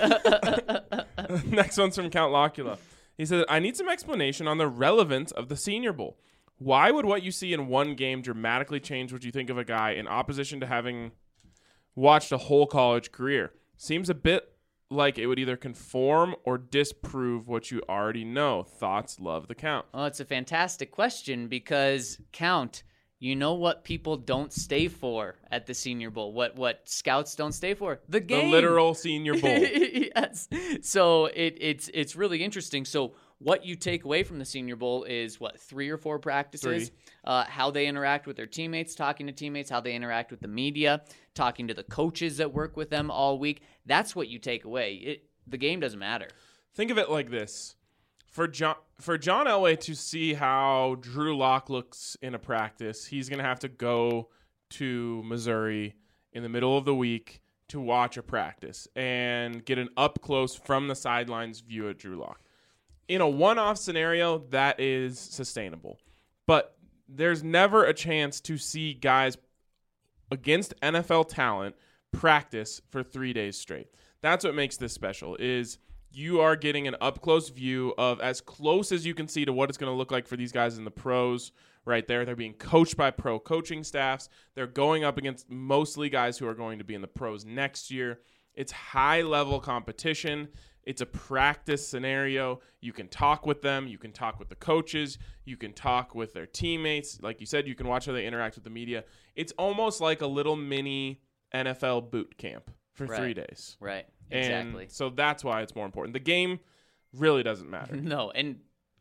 Next one's from Count Locula. He said, I need some explanation on the relevance of the Senior Bowl. Why would what you see in one game dramatically change what you think of a guy in opposition to having watched a whole college career? Seems a bit like it would either conform or disprove what you already know. Thoughts? Love the Count. Well, it's a fantastic question because Count, you know what people don't stay for at the Senior Bowl? What what scouts don't stay for? The game. The literal Senior Bowl. Yes. So it, it's it's really interesting. So what you take away from the Senior Bowl is what, three or four practices, Three. Uh, how they interact with their teammates, talking to teammates, how they interact with the media, talking to the coaches that work with them all week. That's what you take away. It, the game doesn't matter. Think of it like this. For John for John Elway to see how Drew Lock looks in a practice, he's going to have to go to Missouri in the middle of the week to watch a practice and get an up-close from the sidelines view of Drew Lock. In a one-off scenario, that is sustainable. But there's never a chance to see guys against N F L talent practice for three days straight. That's what makes this special, is you are getting an up-close view of as close as you can see to what it's going to look like for these guys in the pros right there. They're being coached by pro coaching staffs. They're going up against mostly guys who are going to be in the pros next year. It's high-level competition. It's a practice scenario. You can talk with them. You can talk with the coaches. You can talk with their teammates. Like you said, you can watch how they interact with the media. It's almost like a little mini N F L boot camp for Right. three days. Right. And Exactly. so that's why it's more important. The game really doesn't matter. No, and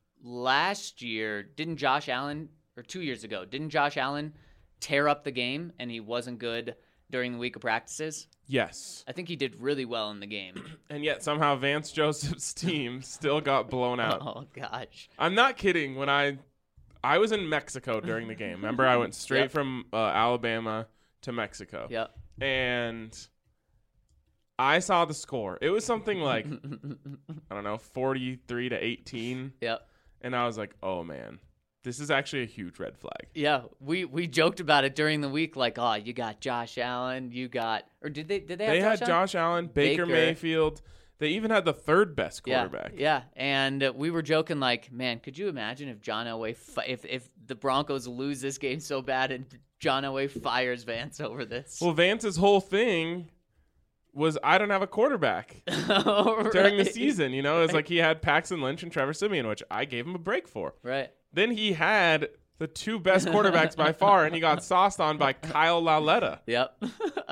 last year, didn't Josh Allen, or two years ago, didn't Josh Allen tear up the game and he wasn't good during the week of practices? Yes. I think he did really well in the game. And yet somehow Vance Joseph's team still got blown out. Oh, gosh. I'm not kidding. When I I was in Mexico during the game. Remember, I went straight Yep. from uh, Alabama to Mexico. Yep. And I saw the score. It was something like, I don't know, forty-three to eighteen. Yep. And I was like, oh, man, this is actually a huge red flag. Yeah, we, we joked about it during the week, like, oh, you got Josh Allen, you got, or did they did they have They Josh had Allen? Josh Allen, Baker, Baker. Mayfield. They even had the third best Yeah, quarterback. yeah, and uh, we were joking like, man, could you imagine if John Elway, fi- if if the Broncos lose this game so bad and John Elway fires Vance over this? Well, Vance's whole thing was, I don't have a quarterback Right. during the season. You know, it's like he had Paxton Lynch and Trevor Simeon, which I gave him a break for. Right. Then he had the two best quarterbacks by far, and he got sauced on by Kyle Lauletta. Yep.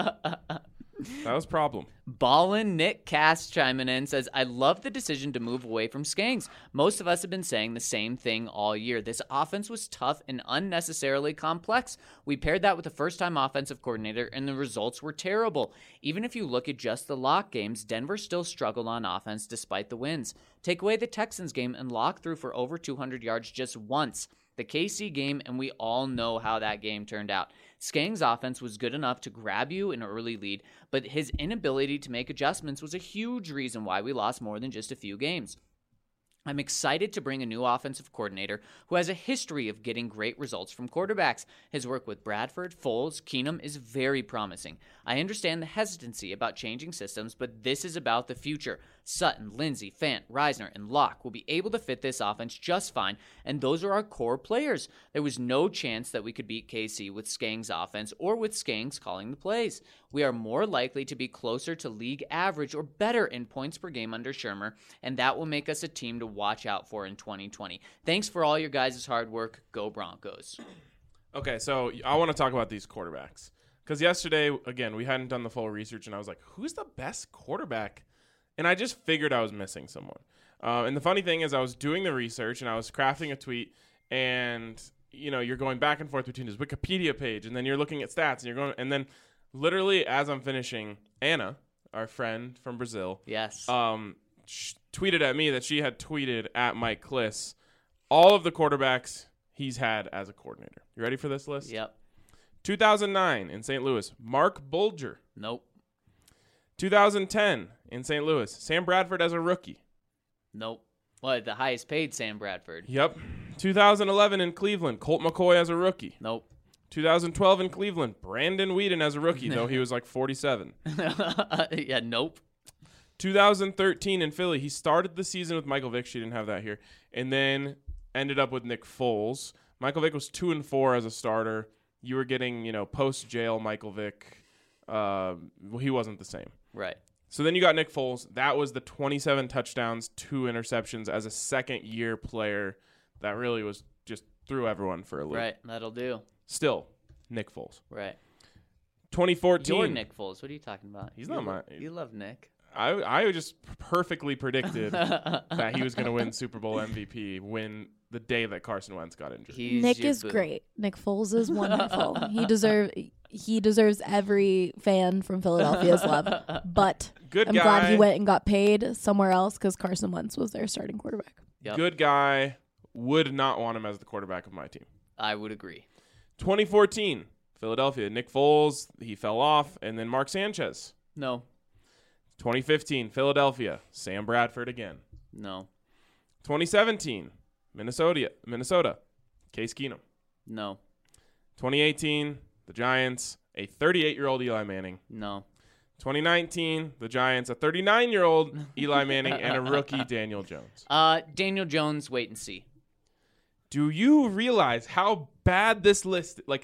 That was a problem. Ballin' Nick Cass chiming in says, I love the decision to move away from Skangs. Most of us have been saying the same thing all year. This offense was tough and unnecessarily complex. We paired that with a first-time offensive coordinator, and the results were terrible. Even if you look at just the Lock games, Denver still struggled on offense despite the wins. Take away the Texans game, and Lock threw for over two hundred yards just once. the K C game, and we all know how that game turned out. Skang's offense was good enough to grab you an early lead, but his inability to make adjustments was a huge reason why we lost more than just a few games. I'm excited to bring a new offensive coordinator who has a history of getting great results from quarterbacks. His work with Bradford, Foles, Keenum is very promising. I understand the hesitancy about changing systems, but this is about the future. Sutton, Lindsey, Fant, Reisner, and Locke will be able to fit this offense just fine, and those are our core players. There was no chance that we could beat K C with Skang's offense or with Skang's calling the plays. We are more likely to be closer to league average or better in points per game under Shurmur, and that will make us a team to watch out for in twenty twenty. Thanks for all your guys' hard work. Go Broncos. Okay, so I want to talk about these quarterbacks. Because yesterday, again, we hadn't done the full research, and I was like, who's the best quarterback? And I just figured I was missing someone. Uh, and the funny thing is I was doing the research, and I was crafting a tweet, and, you know, you're going back and forth between his Wikipedia page, and then you're looking at stats, and you're going, and then literally as I'm finishing, Anna, our friend from Brazil, Yes. um, sh- tweeted at me that she had tweeted at Mike Kliss all of the quarterbacks he's had as a coordinator. You ready for this list? Yep. two thousand nine in Saint Louis, Mark Bulger. Nope. two thousand ten in Saint Louis, Sam Bradford as a rookie. Nope. What, the highest paid Sam Bradford? Yep. two thousand eleven in Cleveland, Colt McCoy as a rookie. Nope. two thousand twelve in Cleveland, Brandon Weeden as a rookie, though he was like forty-seven. Yeah, nope. two thousand thirteen in Philly, he started the season with Michael Vick. She didn't have that here. And then ended up with Nick Foles. Michael Vick was two and four as a starter. You were getting, you know, post-jail Michael Vick. Uh, well, he wasn't the same. Right. So then you got Nick Foles. That was the twenty-seven touchdowns, two interceptions as a second-year player. That really was just threw everyone for a loop. Right. That'll do. Still, Nick Foles. Right. twenty fourteen. You're Nick Foles. What are you talking about? He's you not lo- my- You love Nick. I I just perfectly predicted that he was going to win Super Bowl M V P when the day that Carson Wentz got injured. He's Nick your is boo. great. Nick Foles is wonderful. he deserve he deserves every fan from Philadelphia's love. But Good I'm guy. glad he went and got paid somewhere else because Carson Wentz was their starting quarterback. Yep. Good guy. Would not want him as the quarterback of my team. I would agree. twenty fourteen, Philadelphia. Nick Foles, he fell off, and then Mark Sanchez. No. twenty fifteen, Philadelphia. Sam Bradford again. No. twenty seventeen, Minnesota. Minnesota. Case Keenum. No. twenty eighteen, the Giants. A thirty-eight-year-old Eli Manning. No. twenty nineteen, the Giants. A thirty-nine-year-old Eli Manning and a rookie Daniel Jones. Uh, Daniel Jones, wait and see. Do you realize how bad this list, like,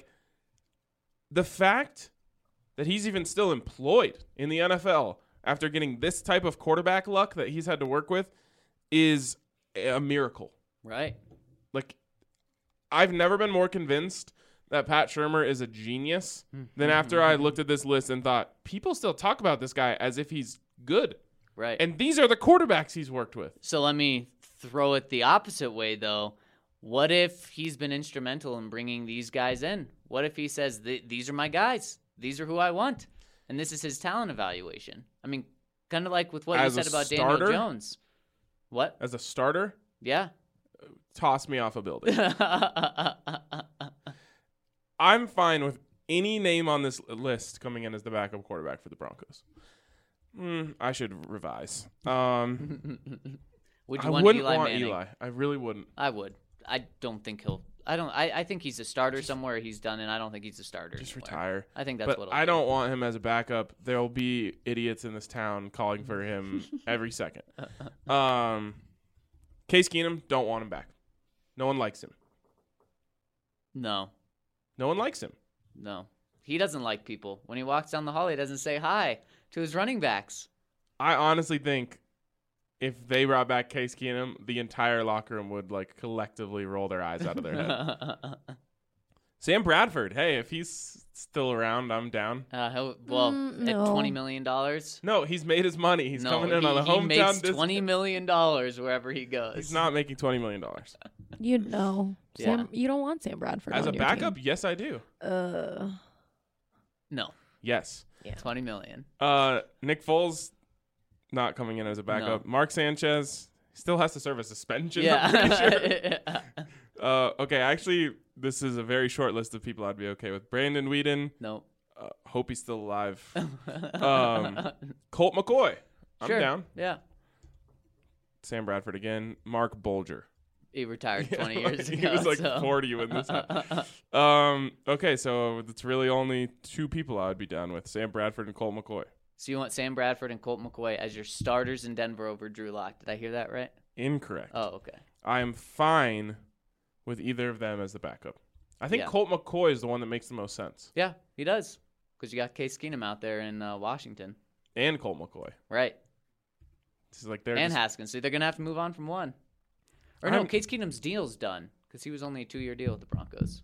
the fact that he's even still employed in the N F L after getting this type of quarterback luck that he's had to work with is a miracle. Right. Like, I've never been more convinced that Pat Shurmur is a genius than after I looked at this list and thought, people still talk about this guy as if he's good. Right. And these are the quarterbacks he's worked with. So let me throw it the opposite way, though. What if he's been instrumental in bringing these guys in? What if he says, "Th- these are my guys. These are who I want. And this is his talent evaluation. I mean, kind of like with what As you a said about starter? Daniel Jones. What? As a starter, Yeah. toss me off a building. I'm fine with any name on this list coming in as the backup quarterback for the Broncos. Mm, I should revise. Um, Would you I want wouldn't Eli want Manning? Eli. I really wouldn't. I would. I don't think he'll. I don't. I, I think he's a starter somewhere. He's done, and I don't think he's a starter. Just anywhere. retire. I think that's But what. I don't want him as a backup. There will be idiots in this town calling for him every second. Um, Case Keenum, don't want him back. No one likes him. No, No one likes him. no. He doesn't like people. When he walks down the hall, he doesn't say hi to his running backs. I honestly think if they brought back Case Keenum, the entire locker room would like collectively roll their eyes out of their head. Sam Bradford, hey, if he's still around, I'm down. Uh, he'll, well, Mm, at no. twenty million dollars. No, he's made his money. He's no, coming in he, on a he hometown makes discount. twenty million dollars wherever he goes. He's not making twenty million dollars. You know, Yeah. Sam, you don't want Sam Bradford As on a your backup, team. yes, I do. Uh, No, Yes. twenty million. Uh, Nick Foles, not coming in as a backup. Mark Sanchez still has to serve a suspension. I'm pretty sure. Yeah. Uh, okay, actually, this is a very short list of people I'd be okay with. Brandon Whedon. No. Uh, hope he's still alive. um, Colt McCoy. I'm Sure. down. Yeah. Sam Bradford again. Mark Bolger. He retired Yeah, twenty years he ago. was like so. forty when this happened. Um, okay, so it's really only two people I would be down with: Sam Bradford and Colt McCoy. So you want Sam Bradford and Colt McCoy as your starters in Denver over Drew Lock. Did I hear that right? Incorrect. Oh, okay. I am fine with either of them as the backup. I think Yeah. Colt McCoy is the one that makes the most sense. Yeah, he does. Because you got Case Keenum out there in uh, Washington. And Colt McCoy. Right. This is like they're And just, Haskins. So they're going to have to move on from one. Or no, I'm- Case Keenum's deal's done. Because he was only a two-year deal with the Broncos.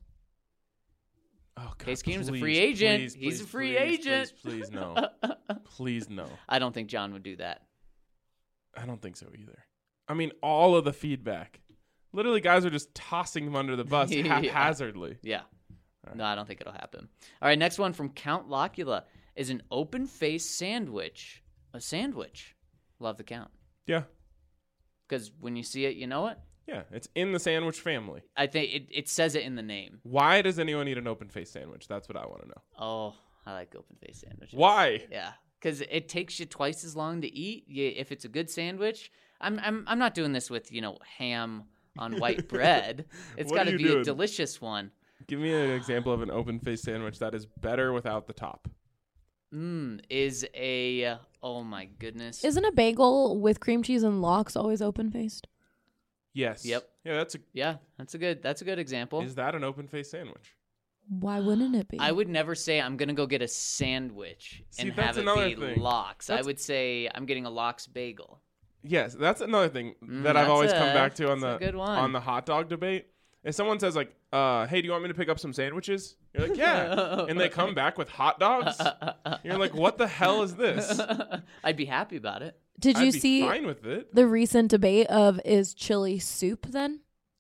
oh, God, Case Keenum's a please, free agent. please, He's a please, free please, agent. Please, please no. Please no. I don't think John would do that. I don't think so either. I mean, all of the feedback. Literally, guys are just tossing him under the bus Yeah. haphazardly. Yeah. right. No, I don't think it'll happen. All right, next one from Count Locula is an open-faced sandwich. A sandwich. Love the count. Yeah. Because when you see it, you know it. Yeah, it's in the sandwich family. I think it, it says it in the name. Why does anyone eat an open-faced sandwich? That's what I want to know. Oh, I like open-faced sandwiches. Why? Yeah, because it takes you twice as long to eat. You, if it's a good sandwich, I'm I'm I'm not doing this with you know ham on white bread. It's What got are to you be doing? a delicious one. Give me an example of an open-faced sandwich that is better without the top. Mmm, is a oh my goodness. Isn't a bagel with cream cheese and lox always open faced? Yes. Yep. Yeah, that's a. Yeah, that's a good that's a good example. Is that an open-faced sandwich? Why wouldn't it be? I would never say I'm gonna go get a sandwich See, and that's have it another be thing. lox. I That's- would say I'm getting a lox bagel. Yes, that's another thing Mm, that I've that's always a- come back to on that's the a good one. on the hot dog debate. If someone says like, uh, "Hey, do you want me to pick up some sandwiches?" You're like, "Yeah," and they come back with hot dogs. You're like, "What the hell is this?" I'd be happy about it. Did you I'd be see fine with it. the recent debate of is chili soup then?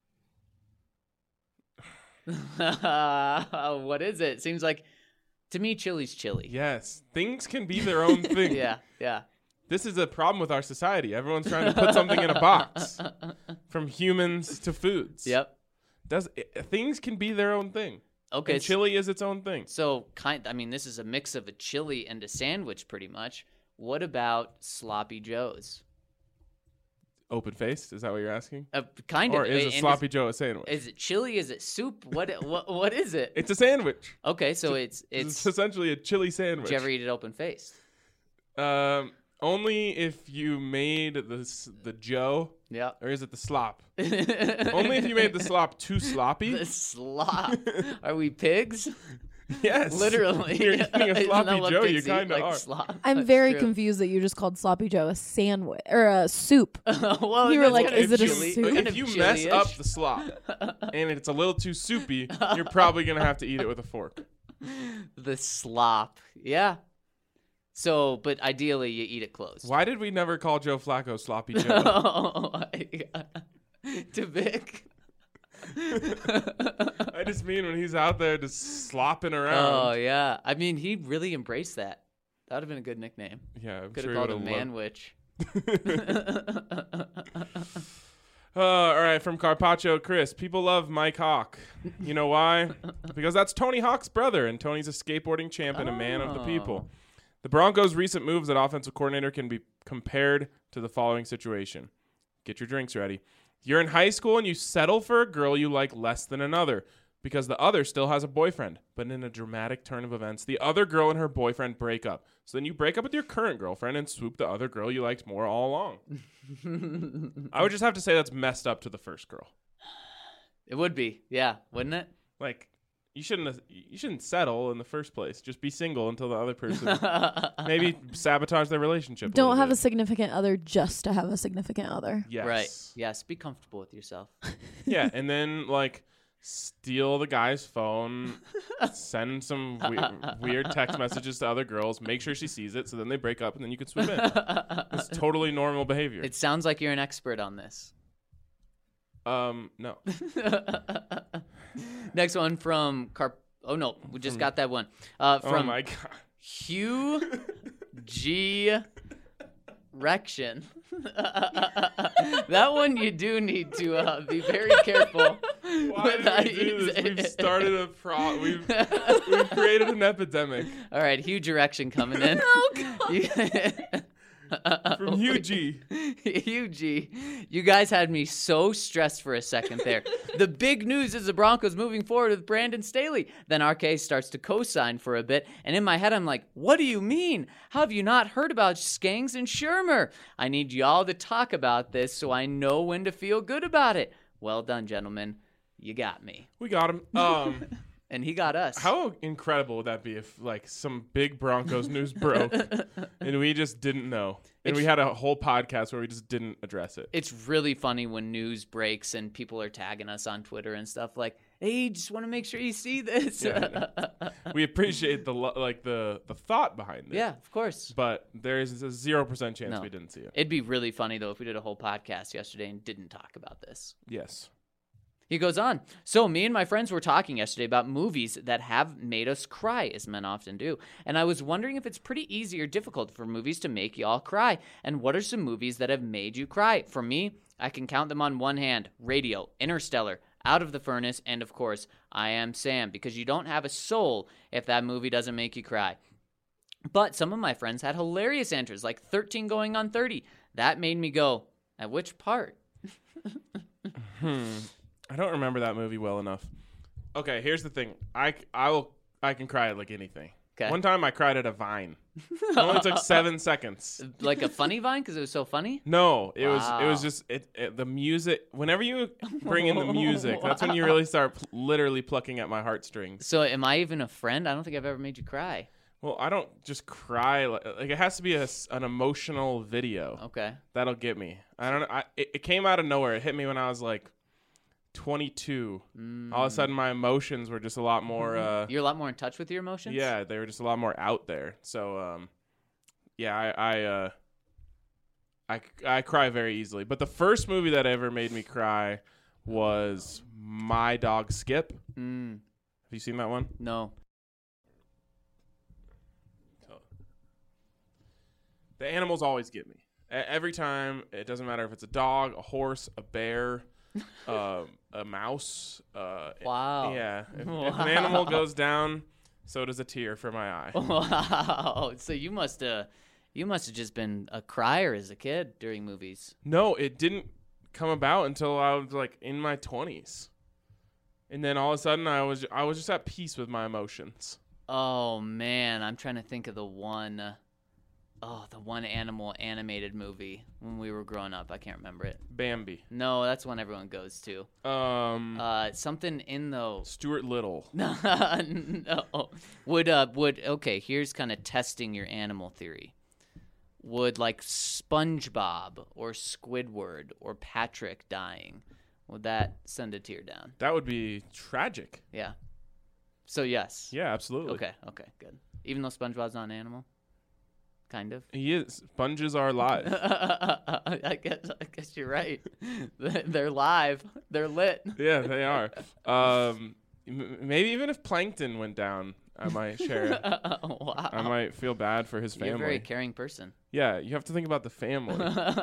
What is it? Seems like to me, chili's chili. Yes, things can be their own thing. Yeah, yeah. This is a problem with our society. Everyone's trying to put something in a box, from humans to foods. Yep. Does things can be their own thing? Okay. And chili is its own thing. So kind. I mean, this is a mix of a chili and a sandwich, pretty much. What about sloppy joes? Open faced? Is that what you're asking? Uh, kind Or of. is And a sloppy Joe a sandwich? Is it chili? Is it soup? What? What? What is it? It's a sandwich. Okay, so it's It's, it's. essentially a chili sandwich. Did you ever eat it open faced? Um, only if you made the s- the Joe, Yeah. or is it the slop? Only Only if you made the slop too sloppy. the slop. Are we pigs? Yes, Literally. You're eating a Isn't that sloppy what Joe. You pigs eat? kind of Like are. slop? I'm That's very true. confused that you just called sloppy joe a sandwich or a soup. well, You were that's like, kind of is it a chili- soup? kind If of you mess chili-ish. up the slop and it's a little too soupy, you're probably gonna have to eat it with a fork. the slop. Yeah. So, but ideally, you eat it closed. Why did we never call Joe Flacco Sloppy Joe? Oh, to Vic. I just mean when he's out there just slopping Oh around. yeah. I mean, he really embraced that. That would have been a good nickname. Yeah, I'm Could sure have he called him would've Manwich. Uh, all right, from Carpaccio, Chris. People love Mike Hawk. You know why? Because that's Tony Hawk's brother, and Tony's a skateboarding champ and a man of the people. The Broncos' recent moves at offensive coordinator can be compared to the following situation. Get your drinks ready. You're in high school and you settle for a girl you like less than another because the other still has a boyfriend. But in a dramatic turn of events, the other girl and her boyfriend break up. So then you break up with your current girlfriend and swoop the other girl you liked more all along. I would just have to say that's messed up to the first girl. It would be, yeah, wouldn't it? Like, you shouldn't have, you shouldn't settle in the first place. Just be single until the other person maybe sabotage their relationship. Don't little have a bit. significant other just to have a significant other. Yes. Right. Yes. Be comfortable with yourself. Yeah, and then like steal the guy's phone, send some we- weird text messages to other girls, make sure she sees it, so then they break up, and then you can swoop in. It's totally normal behavior. It sounds like you're an expert on this. um, no. Next one from Carp. Oh no, we just got that one. Uh, Oh from my god. Hugh G. Rection. That one you do need to uh, be very careful. Why did we do this? We've started a pro. We've we've created an epidemic. All right, huge erection coming in. Oh, God. From Hugh G. Hugh G. You guys had me so stressed for a second there. The big news is the Broncos moving forward with Brandon Staley. Then R K starts to co-sign for a bit, and in my head I'm like, what do you mean? How have you not heard about Skangs and Shermer? I need y'all to talk about this so I know when to feel good about it. Well done, gentlemen. You got me. We got him. Um, And he got us. how incredible would that be if like some big Broncos news broke and we just didn't know, and It's- we had a whole podcast where we just didn't address it. It's really funny when news breaks and people are tagging us on Twitter and stuff like, hey, just want to make sure you see this. Yeah, we appreciate the lo- like the the thought behind it. Yeah, of course. But there is a zero percent chance No. we didn't see it. It'd be really funny, though, if we did a whole podcast yesterday and didn't talk about this. Yes. He goes on. So me and my friends were talking yesterday about movies that have made us cry, as men often do. And I was wondering if it's pretty easy or difficult for movies to make y'all cry. And what are some movies that have made you cry? For me, I can count them on one hand. Radio, Interstellar, Out of the Furnace, and of course, I Am Sam. Because you don't have a soul if that movie doesn't make you cry. But some of my friends had hilarious answers, like thirteen going on thirty. That made me go, at which part? Hmm. I don't remember that movie well enough. Okay, here's the thing. I, I will I can cry at like anything. Okay. One time I cried at a Vine. It only took seven seconds. Like a funny Vine because it was so funny? No, it was it was Wow. just it, it the music. Whenever you bring in the music, that's when you really start pl- literally plucking at my heartstrings. So am I even a friend? I don't think I've ever made you cry. Well, I don't just cry like, like it has to be a s an emotional video. Okay. That'll get me. I don't know. I, it, it came out of nowhere. It hit me when I was like twenty-two. All of a sudden, my emotions were just a lot more. Uh, You're a lot more in touch with your emotions? yeah, they were just a lot more out there. So, um, yeah, I I, uh, I I cry very easily. But the first movie that ever made me cry was My Dog Skip. Mm, Have you seen that one? no. The animals always get me. E- Every time, it doesn't matter if it's a dog, a horse, a bear, uh, a mouse. Uh, Wow. Yeah. If, if an animal goes down, so does a tear for my eye. Wow. So you must uh you must have just been a crier as a kid during movies. No, it didn't come about until I was like in my twenties. And then all of a sudden, I was I was just at peace with my emotions. Oh man, I'm trying to think of the one uh, oh, the one animal animated movie when we were growing up. I can't remember it. Bambi. No, that's one everyone goes to. Um, Uh something in the Stuart Little. No, no. Would uh would okay, here's kind of testing your animal theory. Would like SpongeBob or Squidward or Patrick dying, would that send a tear down? That would be tragic. Yeah. So yes. Yeah, absolutely. Okay, okay, good. Even though SpongeBob's not an animal? Kind of. He is. Sponges are live. I guess I guess you're right. They're live. They're lit. Yeah, they are. Um, m- maybe even if Plankton went down, I might share it. Wow. I might feel bad for his You're a family. very caring person. Yeah, you have to think about the family.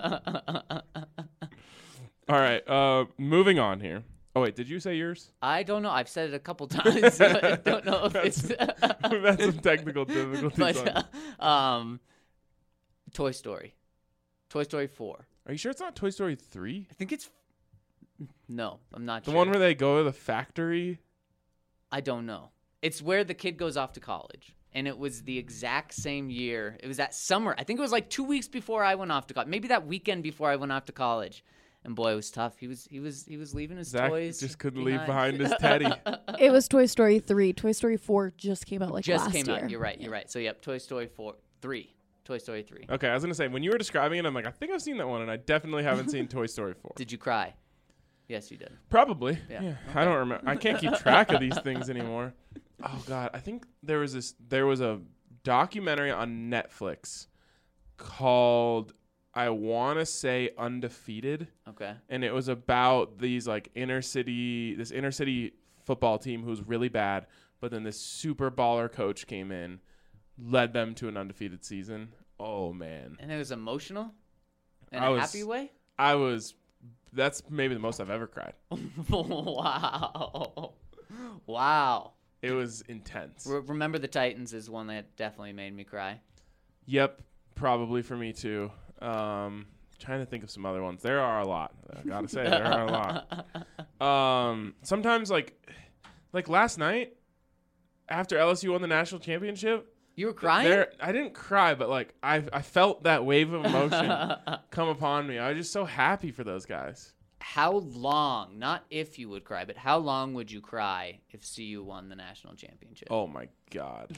All right, uh, moving on here. Oh wait, did you say yours? I don't know. I've said it a couple times. I don't know if it's. We've had some technical difficulties. on- but, uh, um, Toy Story, Toy Story four. Are you sure it's not Toy Story three? I think it's. No, I'm not The sure. one where they go to the factory? I don't know. It's where the kid goes off to college. And it was the exact same year. It was that summer. I think it was like two weeks before I went off to college. Maybe that weekend before I went off to college. And boy, it was tough. He was he was he was leaving his Zach toys. just couldn't leave behind his teddy. It was Toy Story three. Toy Story four just came out like Just last came year. out. You're right. You're right. So yep, Toy Story four, three. Toy Story three. Okay, I was gonna say when you were describing it, I'm like, I think I've seen that one, and I definitely haven't seen Toy Story four. Did you cry? Yes, you did. Probably. Yeah. Yeah. I don't remember. I can't keep track of these things anymore. Oh God, I think there was this. There was a documentary on Netflix called I want to say Undefeated, Okay. and it was about these like inner city, this inner city football team who was really bad, but then this super baller coach came in, led them to an undefeated season. Oh man, And it was emotional in I a was- happy way? I was. That's maybe the most I've ever cried. Wow. Wow. It was intense. Re- Remember the Titans is one that definitely made me cry. Yep, probably for me too. Um, trying to think of some other ones. There are a lot. I gotta say, there are a lot. Um, sometimes like, like last night, after L S U won the national championship, You were crying? there I didn't cry, but like I I felt that wave of emotion come upon me. I was just so happy for those guys. How long, not if you would cry, but how long would you cry if C U won the national championship? Oh my god,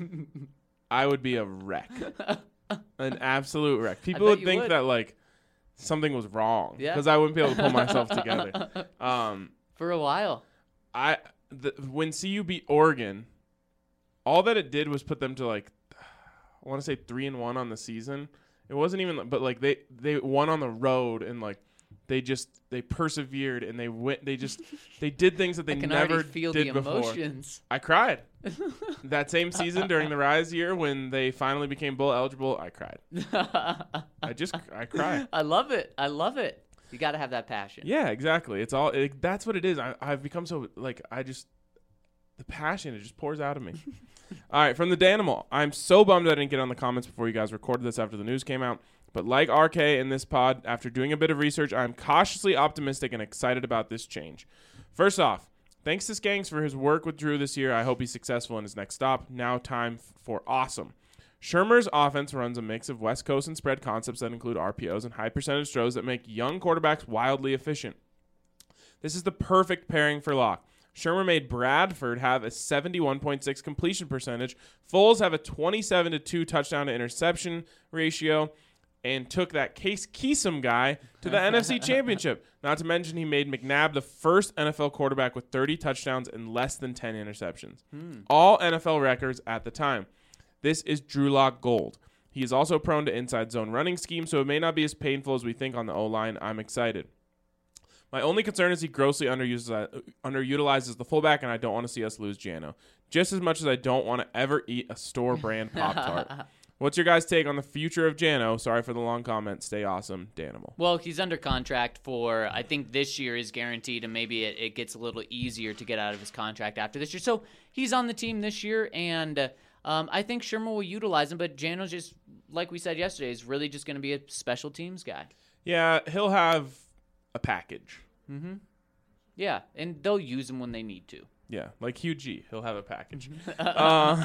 I would be a wreck, an absolute wreck. People bet would you think would. that like something was wrong Yeah. because I wouldn't be able to pull myself together. Um, For a while. I the, when C U beat Oregon, all that it did was put them to like I want to say three and one on the season. It wasn't even, but like they they won on the road and like they just they persevered and they went. They just they did things that they I can never already feel did the before. emotions. I cried that same season during the Rise year when they finally became bowl eligible. I cried. I just I cried. I love it. I love it. You got to have that passion. Yeah, exactly. It's all it, that's what it is. I, I've become so like I just the passion it just pours out of me. All right, from the Danimal. I'm so bummed I didn't get on the comments before you guys recorded this after the news came out. But like R K in this pod, after doing a bit of research, I'm cautiously optimistic and excited about this change. First off, thanks to Skanks for his work with Drew this year. I hope he's successful in his next stop. Now time f- for awesome. Shermer's offense runs a mix of West Coast and spread concepts that include R P Os and high percentage throws that make young quarterbacks wildly efficient. This is the perfect pairing for Locke. Shermer made Bradford have a seventy-one point six completion percentage. Foles have a twenty-seven to two touchdown to interception ratio and took that Case Keesum guy to the N F C Championship. Not to mention he made McNabb the first N F L quarterback with thirty touchdowns and less than ten interceptions. Hmm. All N F L records at the time. This is Drew Lock gold. He is also prone to inside zone running scheme, so it may not be as painful as we think on the O-line. I'm excited. My only concern is he grossly underuses, uh, underutilizes the fullback, and I don't want to see us lose Jano. Just as much as I don't want to ever eat a store-brand Pop-Tart. What's your guys' take on the future of Jano? Sorry for the long comment. Stay awesome, Danimal. Well, he's under contract for, I think this year is guaranteed, and maybe it, it gets a little easier to get out of his contract after this year. So he's on the team this year, and uh, um, I think Shermer will utilize him, but Jano's just, like we said yesterday, is really just going to be a special teams guy. Yeah, he'll have a package. Mm-hmm. Yeah, and they'll use him when they need to. Yeah, like Hugh G. He'll have a package. uh,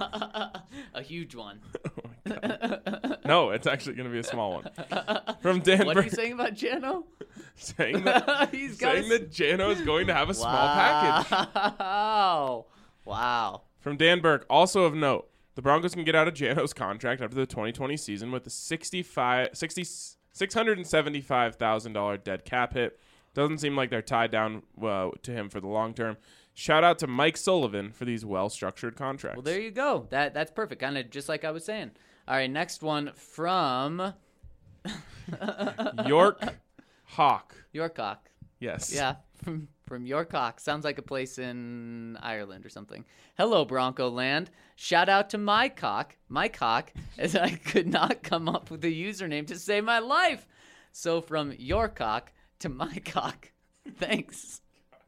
a huge one. oh my God. No, it's actually going to be a small one. From Dan What are Burke, you saying about Jano? saying that, He's got saying a... that Jano is going to have a small package. Wow. Wow. From Dan Burke, also of note, the Broncos can get out of Jano's contract after the twenty twenty season with a sixty-five, sixty, six hundred seventy-five thousand dollars dead cap hit. Doesn't seem like they're tied down uh, to him for the long term. Shout out to Mike Sullivan for these well-structured contracts. Well, there you go. That That's perfect. Kind of just like I was saying. All right, next one from York Hawk. Yorkcock. Yes. Yeah, from from Yorkcock. Sounds like a place in Ireland or something. Hello, Bronco Land. Shout out to my cock, my cock, as I could not come up with a username to save my life. So from Yorkcock to my cock. Thanks.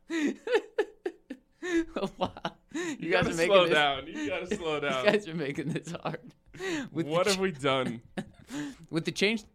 Wow. You, You, guys gotta are making slow this, down. You gotta slow down. You guys are making this hard. With What the have we done? With the change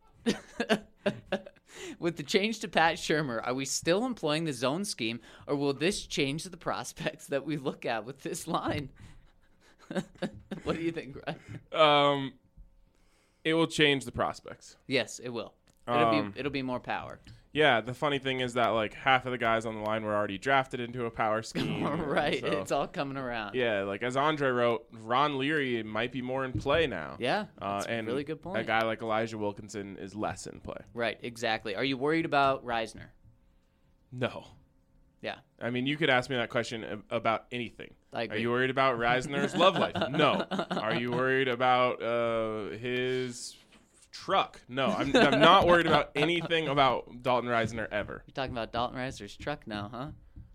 With the change to Pat Shermer, are we still employing the zone scheme, or will this change the prospects that we look at with this line? What do you think, Ryan? Um, it will change the prospects. Yes, it will. It'll Um, be it'll be more power. Yeah, the funny thing is that like half of the guys on the line were already drafted into a power scheme. Right, so- it's all coming around. Yeah, like as Andre wrote, Ron Leary might be more in play now. Yeah, uh, that's a and really good point. A guy like Elijah Wilkinson is less in play. Right, exactly. Are you worried about Reisner? No. Yeah. I mean, you could ask me that question ab- about anything. I Are agree. you worried about Reisner's love life? No. Are you worried about uh, his truck? No. I'm, I'm not worried about anything about Dalton Reisner ever. You're talking about Dalton Reisner's truck now, huh?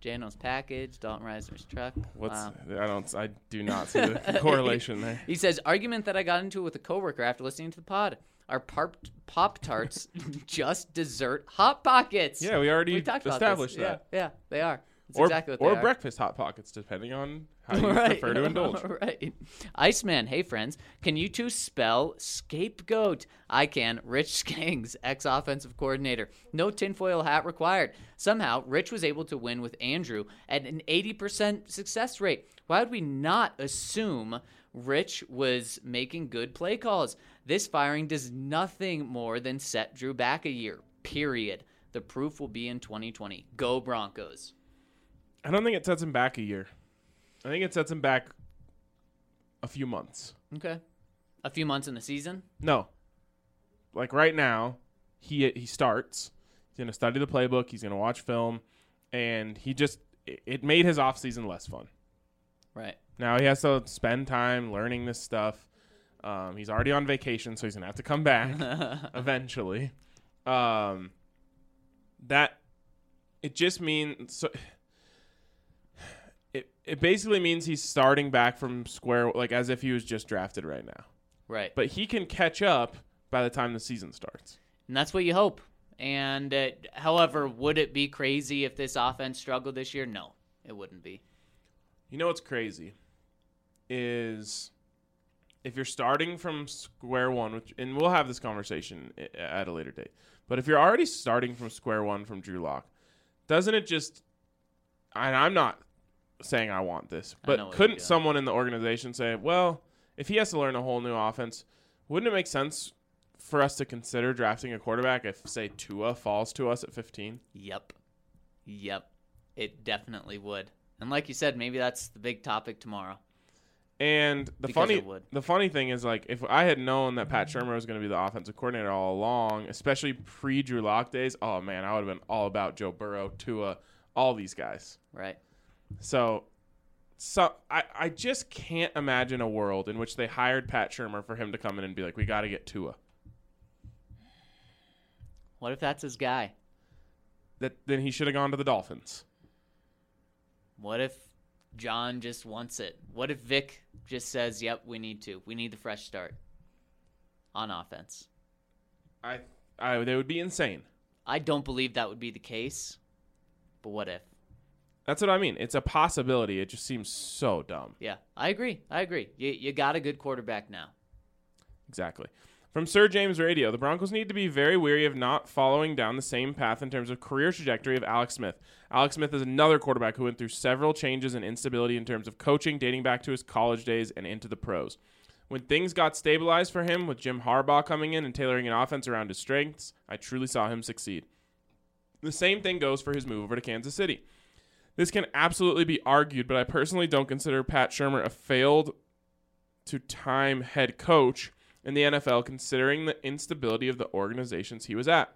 Jano's package, Dalton Reisner's truck. What's Wow. I don't I do not see the correlation there. He says, argument that I got into with a coworker after listening to the pod. Are Pop Pop Tarts just dessert Hot Pockets? Yeah, we already we talked about established this. that. Yeah, yeah, they are. That's Or, exactly what or they are. breakfast Hot Pockets, depending on how you right. prefer to indulge. Right. Iceman, hey friends, can you two spell scapegoat? I can. Rich Skings, ex-offensive coordinator. No tinfoil hat required. Somehow, Rich was able to win with Andrew at an eighty percent success rate. Why would we not assume Rich was making good play calls? This firing does nothing more than set Drew back a year, period. The proof will be in twenty twenty. Go Broncos. I don't think it sets him back a year. I think it sets him back a few months. Okay. A few months in the season? No. Like right now, he he starts. He's going to study the playbook. He's going to watch film. And he just it, it made his offseason less fun. Right. Now he has to spend time learning this stuff. Um, he's already on vacation, so he's going to have to come back eventually. Um, that it just means so it it basically means he's starting back from square, like as if he was just drafted right now. Right. But he can catch up by the time the season starts. And that's what you hope. And uh, however, would it be crazy if this offense struggled this year? No, it wouldn't be. You know what's crazy is if you're starting from square one, which, and we'll have this conversation at a later date, but if you're already starting from square one from Drew Lock, doesn't it just, and I'm not saying I want this, I know but what couldn't you're doing. someone in the organization say, well, if he has to learn a whole new offense, wouldn't it make sense for us to consider drafting a quarterback if, say, Tua falls to us at fifteen? Yep. Yep. It definitely would. And like you said, maybe that's the big topic tomorrow. And the Because funny it would. the funny thing is, like, if I had known that Pat Shurmur was going to be the offensive coordinator all along, especially pre-Drew Lock days, oh, man, I would have been all about Joe Burrow, Tua, all these guys. Right. So, so I, I just can't imagine a world in which they hired Pat Shurmur for him to come in and be like, we got to get Tua. What if that's his guy? That Then he should have gone to the Dolphins. What if John just wants it? What if Vic just says, yep, we need to. We need the fresh start on offense. I, I They would be insane. I don't believe that would be the case, but what if? That's what I mean. It's a possibility. It just seems so dumb. Yeah, I agree. I agree. You, you got a good quarterback now. Exactly. From Sir James Radio, the Broncos need to be very wary of not following down the same path in terms of career trajectory of Alex Smith. Alex Smith is another quarterback who went through several changes and instability in terms of coaching dating back to his college days and into the pros. When things got stabilized for him with Jim Harbaugh coming in and tailoring an offense around his strengths, I truly saw him succeed. The same thing goes for his move over to Kansas City. This can absolutely be argued, but I personally don't consider Pat Shurmur a failed to time head coach in the N F L, considering the instability of the organizations he was at.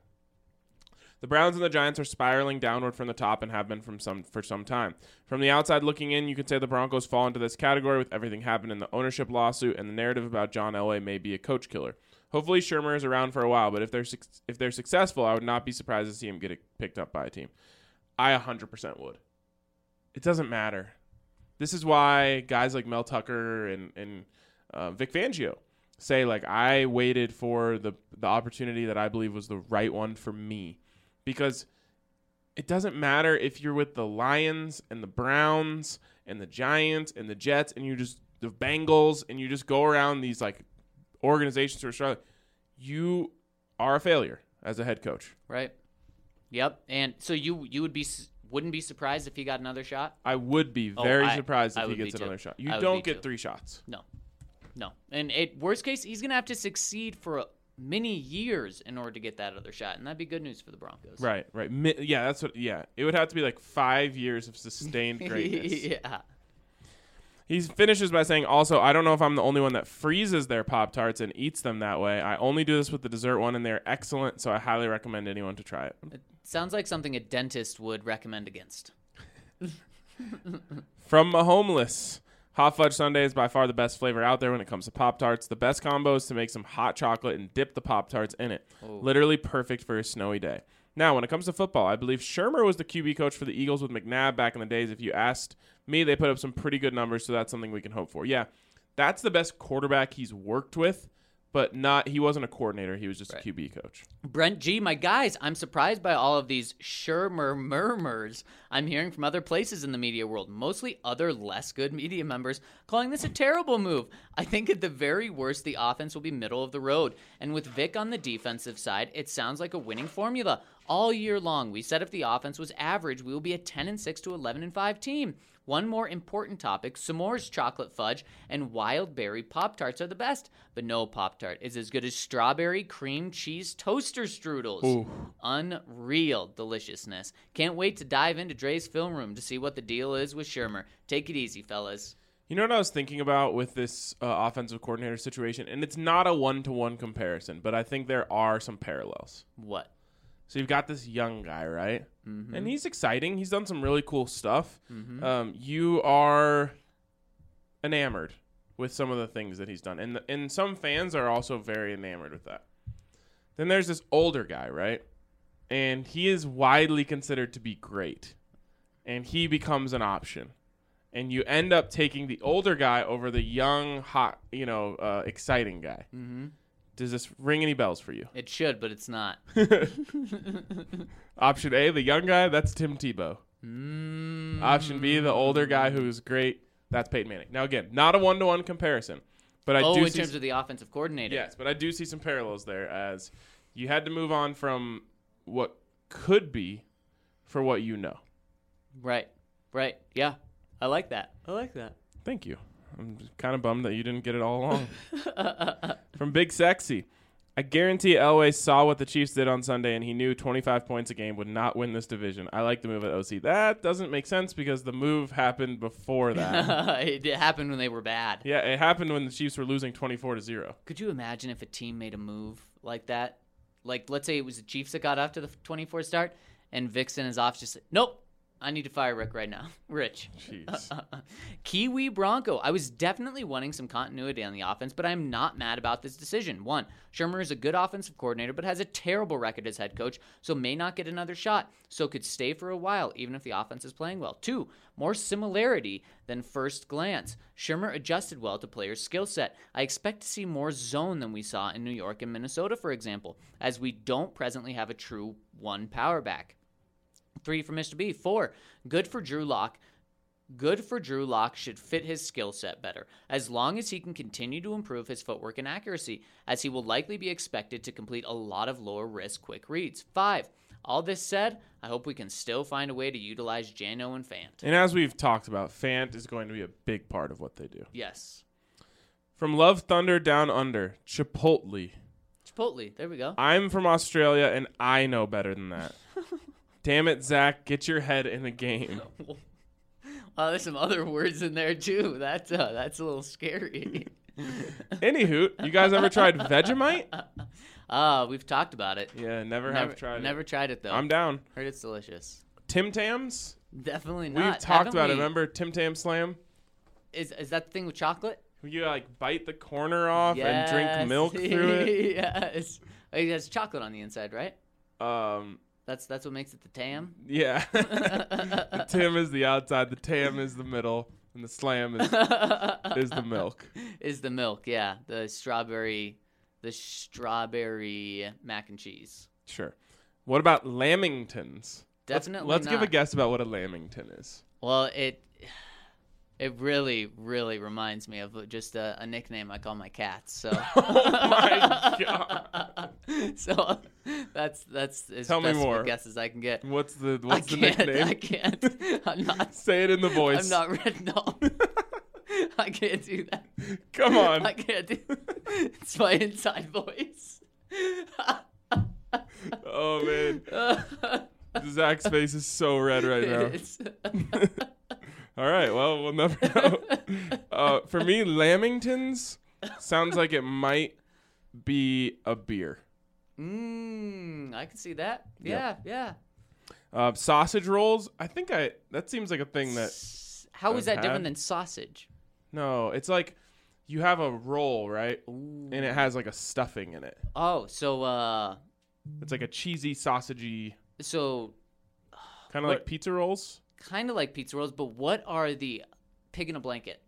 The Browns and the Giants are spiraling downward from the top and have been from some for some time. From the outside looking in, you could say the Broncos fall into this category with everything happening in the ownership lawsuit and the narrative about John Elway may be a coach killer. Hopefully Shurmur is around for a while, but if they're su- if they're successful, I would not be surprised to see him get it picked up by a team. I one hundred percent would. It doesn't matter. This is why guys like Mel Tucker and, and uh, Vic Fangio say, like, I waited for the the opportunity that I believe was the right one for me. Because it doesn't matter if you're with the Lions and the Browns and the Giants and the Jets and you just the Bengals and you just go around these like organizations who are struggling. You are a failure as a head coach. Right. Yep. And so you you would be wouldn't be surprised if he got another shot? I would be Oh, very I- surprised I if he would be gets too. another shot. You I would don't be get too. three shots. No. No. And it worst case, he's going to have to succeed for a, many years in order to get that other shot, and that'd be good news for the Broncos. Right, right. Mi- yeah, that's what. Yeah, it would have to be like five years of sustained greatness. Yeah. He finishes by saying, also, I don't know if I'm the only one that freezes their Pop-Tarts and eats them that way. I only do this with the dessert one, and they're excellent, so I highly recommend anyone to try it. It sounds like something a dentist would recommend against. From Mahomeless, Hot Fudge Sundae is by far the best flavor out there when it comes to Pop-Tarts. The best combo is to make some hot chocolate and dip the Pop-Tarts in it. Oh. Literally perfect for a snowy day. Now, when it comes to football, I believe Shermer was the Q B coach for the Eagles with McNabb back in the days. If you asked me, they put up some pretty good numbers, so that's something we can hope for. Yeah, that's the best quarterback he's worked with, but not he wasn't a coordinator. He was just Right. a Q B coach. Brent G, my guys, I'm surprised by all of these Shermer murmurs I'm hearing from other places in the media world, mostly other less good media members, calling this a terrible move. I think at the very worst, the offense will be middle of the road. And with Vic on the defensive side, it sounds like a winning formula. All year long, we said if the offense was average, we will be a ten and six to eleven and five team. One more important topic, s'mores chocolate fudge and wild berry Pop-Tarts are the best, but no Pop-Tart is as good as strawberry cream cheese toaster strudels. Ooh. Unreal deliciousness. Can't wait to dive into Dre's film room to see what the deal is with Shermer. Take it easy, fellas. You know what I was thinking about with this uh, offensive coordinator situation? And it's not a one-to-one comparison, but I think there are some parallels. What? So you've got this young guy, right? Mm-hmm. And he's exciting. He's done some really cool stuff. Mm-hmm. Um, you are enamored with some of the things that he's done. And, the, and some fans are also very enamored with that. Then there's this older guy, right? And he is widely considered to be great. And he becomes an option. And you end up taking the older guy over the young, hot, you know, uh, exciting guy. Mm-hmm. Does this ring any bells for you? It should, but it's not. Option A, the young guy, that's Tim Tebow. Mm. Option B, the older guy who's great, that's Peyton Manning. Now, again, not a one-to-one comparison, but I oh, do in see terms of the offensive coordinator. yes, but I do see some parallels there as you had to move on from what could be for what you know. Right. Right. Yeah. I like that. I like that. Thank you. I'm kind of bummed that you didn't get it all along. From Big Sexy. I guarantee Elway saw what the Chiefs did on Sunday, and he knew twenty-five points a game would not win this division. I like the move at O C. That doesn't make sense because the move happened before that. It happened when they were bad. Yeah, it happened when the Chiefs were losing twenty-four to zero. Could you imagine if a team made a move like that? Like, let's say it was the Chiefs that got off to the twenty-four start, and Vixen is off just like, nope, I need to fire Rick right now. Rich. Jeez. Kiwi Bronco. I was definitely wanting some continuity on the offense, but I'm not mad about this decision. One, Shermer is a good offensive coordinator, but has a terrible record as head coach, so may not get another shot, so could stay for a while, even if the offense is playing well. Two, more similarity than first glance. Shermer adjusted well to players' skill set. I expect to see more zone than we saw in New York and Minnesota, for example, as we don't presently have a true one power back. Three for Mister B. Four, good for Drew Lock. Good for Drew Lock should fit his skill set better, as long as he can continue to improve his footwork and accuracy, as he will likely be expected to complete a lot of lower-risk quick reads. Five, all this said, I hope we can still find a way to utilize Jano and Fant. And as we've talked about, Fant is going to be a big part of what they do. Yes. From Love Thunder Down Under, Chipotle. Chipotle, there we go. I'm from Australia, and I know better than that. Damn it, Zach, get your head in the game. Wow, there's some other words in there, too. That's, uh, that's a little scary. Anywho, you guys ever tried Vegemite? Uh, we've talked about it. Yeah, never, Never have tried Never it. tried it, though. I'm down. Heard it's delicious. Tim Tams? Definitely not. We've talked Haven't about it. we? Remember Tim Tam Slam? Is is that the thing with chocolate? You like bite the corner off and drink Yes. milk through it. Yes. It has chocolate on the inside, right? Um, That's that's what makes it the tam. yeah. The Tim is the outside, the Tam is the middle, and the Slam is is the milk. Is the milk, yeah. The strawberry the strawberry mac and cheese. Sure. What about Lamingtons? Definitely Let's, let's give a not. guess about what a Lamington is. Well, it it really, really reminds me of just a, a nickname I call my cats. So, Oh my god! so that's that's as Tell me best of more. a guess as I can get. What's the what's I the can't, nickname? I can't. I'm not. Say it in the voice. I'm not ready. No, I can't do that. Come on. I can't do. It's my inside voice. Oh man, Zach's face is so red right now. It's- All right, well we'll never know. Uh, for me, Lamingtons sounds like it might be a beer. mm, I can see that. Yeah, yeah. Uh, sausage rolls. I think I. That seems like a thing that. S- How is I've that different had. than sausage? No, it's like you have a roll, right? Ooh. And it has like a stuffing in it. Oh, so uh, It's like a cheesy, sausagey So, Kind of What- like pizza rolls. kind of like pizza rolls, but what are the pig in a blanket?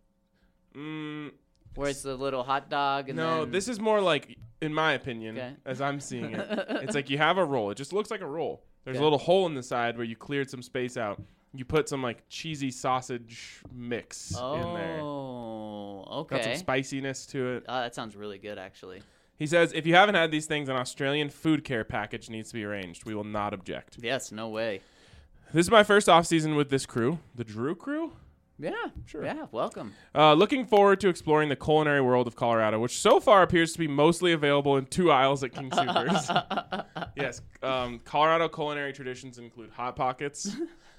Mm, Where it's the little hot dog and no, then... this is more like, in my opinion, Okay. as I'm seeing it, it's like you have a roll. It just looks like a roll. There's Okay. a little hole in the side where you cleared some space out. You put some like cheesy sausage mix in there. Oh, Got some okay. spiciness to it. Oh, that sounds really good, actually. He says, if you haven't had these things, an Australian food care package needs to be arranged. We will not object. Yes, no way. This is my first off season with this crew, the Drew crew. Yeah, Sure. Yeah, welcome. Uh, looking forward to exploring the culinary world of Colorado, which so far appears to be mostly available in two aisles at King Soopers. Yes, um, Colorado culinary traditions include Hot Pockets.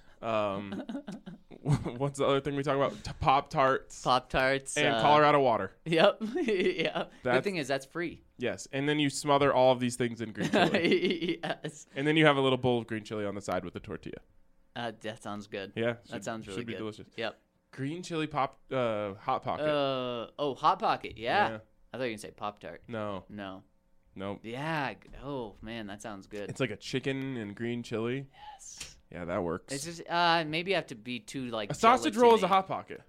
Um, what's the other thing we talk about? T- Pop Tarts Pop Tarts. and uh, Colorado water. Yep. yeah. Good That's- thing is that's free. Yes, and then you smother all of these things in green chili, yes. and then you have a little bowl of green chili on the side with the tortilla. Uh, that sounds good. Yeah, That should- sounds really should be good. delicious. Yep. Green chili pop, uh, hot pocket. Uh oh, Hot Pocket. Yeah. Yeah. I thought you were gonna say Pop Tart. No, No. no, Yeah. g- Oh man, that sounds good. it's like a chicken and green chili. yes. Yeah, that works. It's just uh maybe I have to be too like A sausage roll is a gelatiny. hot pocket.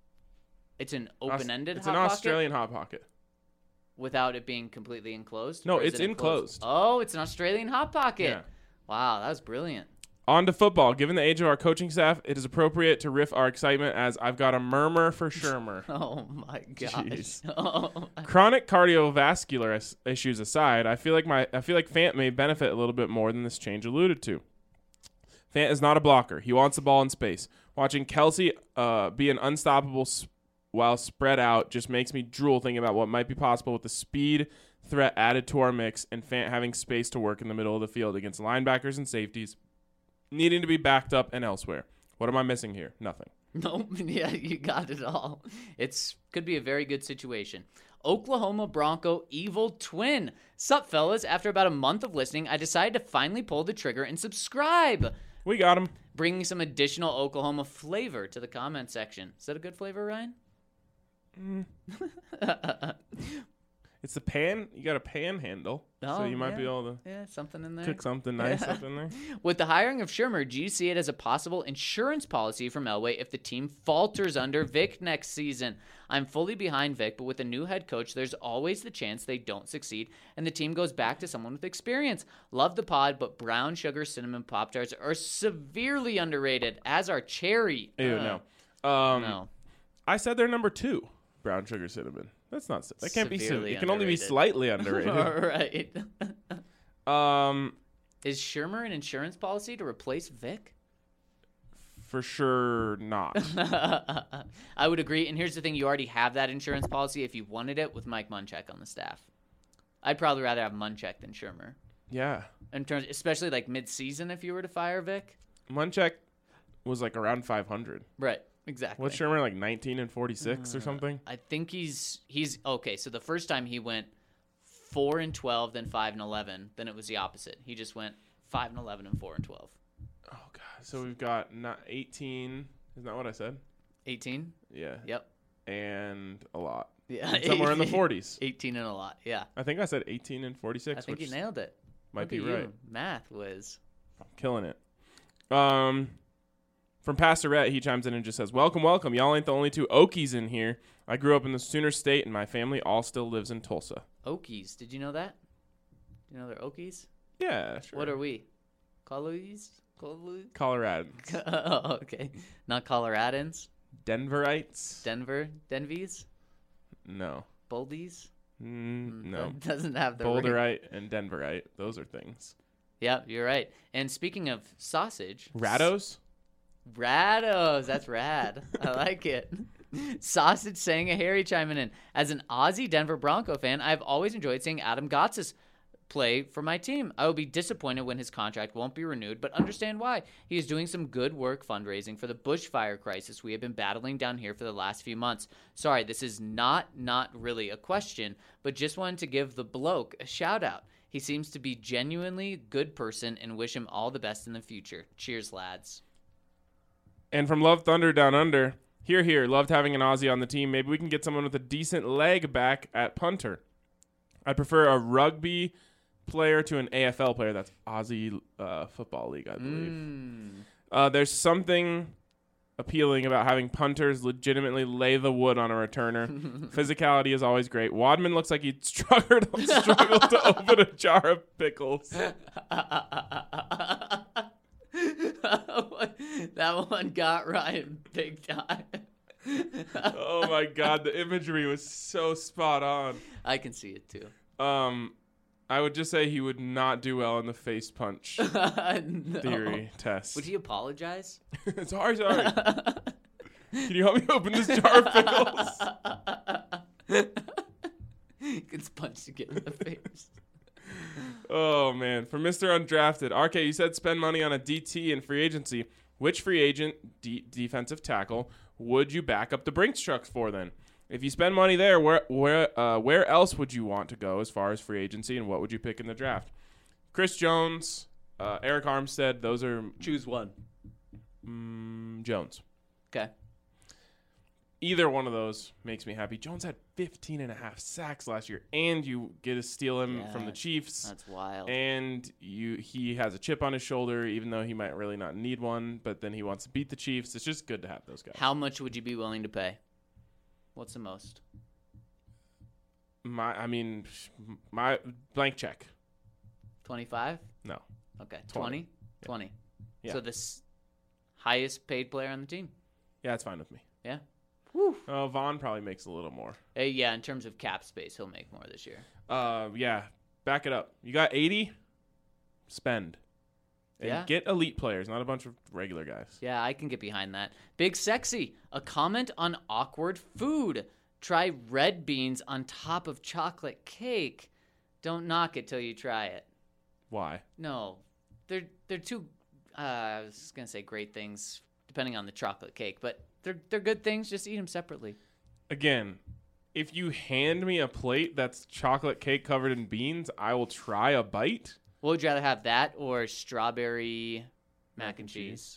It's an Aus- open-ended It's hot an pocket Australian hot pocket. without it being completely enclosed. No, Or is it's it enclosed. Oh, it's an Australian hot pocket. Yeah. Wow, that was brilliant. On to football. Given the age of our coaching staff, it is appropriate to riff our excitement as I've got a murmur for Shermer. Oh my gosh. Jeez. Oh, my- Chronic cardiovascular is- issues aside, I feel like my I feel like Fant may benefit a little bit more than this change alluded to. Fant is not a blocker. He wants the ball in space. Watching Kelsey uh, be an unstoppable s- while spread out just makes me drool thinking about what might be possible with the speed threat added to our mix and Fant having space to work in the middle of the field against linebackers and safeties, needing to be backed up and elsewhere. What am I missing here? Nothing. Nope. Yeah, you got it all. It's could be a very good situation. Oklahoma Bronco Evil Twin. Sup, fellas? After about a month of listening, I decided to finally pull the trigger and subscribe, We got him. bringing some additional Oklahoma flavor to the comment section. Is that a good flavor, Ryan? It's the pan. You got a panhandle, so Oh, you might yeah. be able to Yeah, something in there. cook something nice up in there. With the hiring of Shermer, do you see it as a possible insurance policy from Elway if the team falters under Vic next season? I'm fully behind Vic, but with a new head coach, there's always the chance they don't succeed and the team goes back to someone with experience. Love the pod, but brown sugar cinnamon Pop-Tarts are severely underrated, as are cherry. Ew, Uh, no. Um, no. I said they're number two. Brown sugar cinnamon. That's not. si- That can't be. Severely It can only be underrated. slightly underrated. All right. um, Is Shermer an insurance policy to replace Vic? for sure not. I would agree. And here's the thing: you already have that insurance policy if you wanted it with Mike Munchak on the staff. I'd probably rather have Munchak than Shermer. Yeah, In terms, especially like mid-season, if you were to fire Vic. Munchak was like around five hundred. Right. Exactly. What's Shermer like nineteen and forty-six or something? I think he's he's okay. So the first time he went four and twelve, then five and eleven. Then it was the opposite. He just went five and eleven and four and twelve. Oh god. So we've got not eighteen. Isn't that what I said? Eighteen. Yeah. Yep. And a lot. Yeah. And somewhere in the forties. Eighteen and a lot. Yeah. I think I said eighteen and forty-six. I think which you nailed it. might Look be at you. right. Math was. Killing it. Um, from Pastorette, he chimes in and just says, "Welcome, welcome. Y'all ain't the only two Okies in here. I grew up in the Sooner State, and my family all still lives in Tulsa." Okies. Did you know that? Do you know they're Okies? Yeah, sure. What are we? Coloies? Colo- Coloradans? oh, okay. Not Coloradans. Denverites? Denver? Denvies? no. Boldies? Mm, no. That doesn't have the ring. Boulderite and Denverite. Those are things. Yeah, you're right. And speaking of sausage, Rados? Rados, that's rad. I like it. Sausage saying a Harry chiming in. As an Aussie Denver Bronco fan, I've always enjoyed seeing Adam Gotsis play for my team. I will be disappointed when his contract won't be renewed, but understand why. He is doing some good work fundraising for the bushfire crisis we have been battling down here for the last few months. Sorry, this is not not really a question, but just wanted to give the bloke a shout out. He seems to be genuinely a good person and wish him all the best in the future. Cheers, lads. And from Love Thunder Down Under, here, here, loved having an Aussie on the team. Maybe we can get someone with a decent leg back at punter. I prefer a rugby player to an A F L player. That's Aussie uh, Football League, I believe. Mm. Uh, there's something appealing about having punters legitimately lay the wood on a returner. Physicality is always great. Wadman looks like he'd struggle, struggle to open a jar of pickles. That one got Ryan big time. Oh my God, the imagery was so spot on. I can see it too. Um, I would just say he would not do well in the face punch No. theory test. Would he apologize? Sorry, sorry. Can you help me open this jar of pickles? He gets punched again in the face. Oh, man. For Mister Undrafted, R K, you said spend money on a D T in free agency. Which free agent D- defensive tackle would you back up the Brinks trucks for then? If you spend money there, where where uh, where else would you want to go as far as free agency, and what would you pick in the draft? Chris Jones, uh, Eric Armstead, those are Choose one. mm, Jones. Okay. Either one of those makes me happy. Jones had fifteen and a half sacks last year, and you get to steal him Yeah, from the Chiefs. That's wild. And you he has a chip on his shoulder, even though he might really not need one, but then he wants to beat the Chiefs. It's just good to have those guys. How much would you be willing to pay? What's the most? My, I mean, my blank check. twenty-five? No. Okay. twenty. twenty? twenty. Yeah. So the s- highest paid player on the team? Yeah, it's fine with me. Yeah. Woo. Oh, Vaughn probably makes a little more. Uh, yeah, in terms of cap space, he'll make more this year. Uh, yeah, back it up. You got eighty? Spend. And Yeah. get elite players, not a bunch of regular guys. Yeah, I can get behind that. Big Sexy, a comment on awkward food. Try red beans on top of chocolate cake. Don't knock it till you try it. Why? No, they're they're two. Uh, I was gonna say great things depending on the chocolate cake, but they're they're good things. Just eat them separately. Again, if you hand me a plate that's chocolate cake covered in beans, I will try a bite. What would you rather have, that or strawberry mac, Mac and and cheese?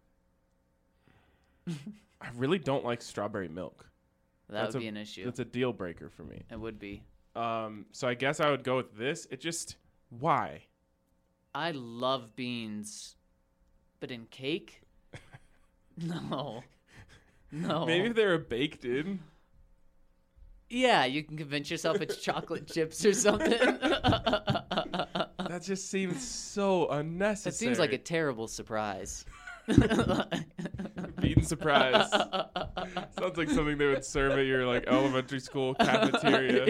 I really don't like strawberry milk. That That's would a- be an issue. That's a deal breaker for me. It would be. Um, so I guess I would go with this. It just why? I love beans, but in cake? No. No. Maybe if they were baked in. Yeah, you can convince yourself it's chocolate chips or something. That just seems so unnecessary. That seems like a terrible surprise. bean surprise. Sounds like something they would serve at your like elementary school cafeteria.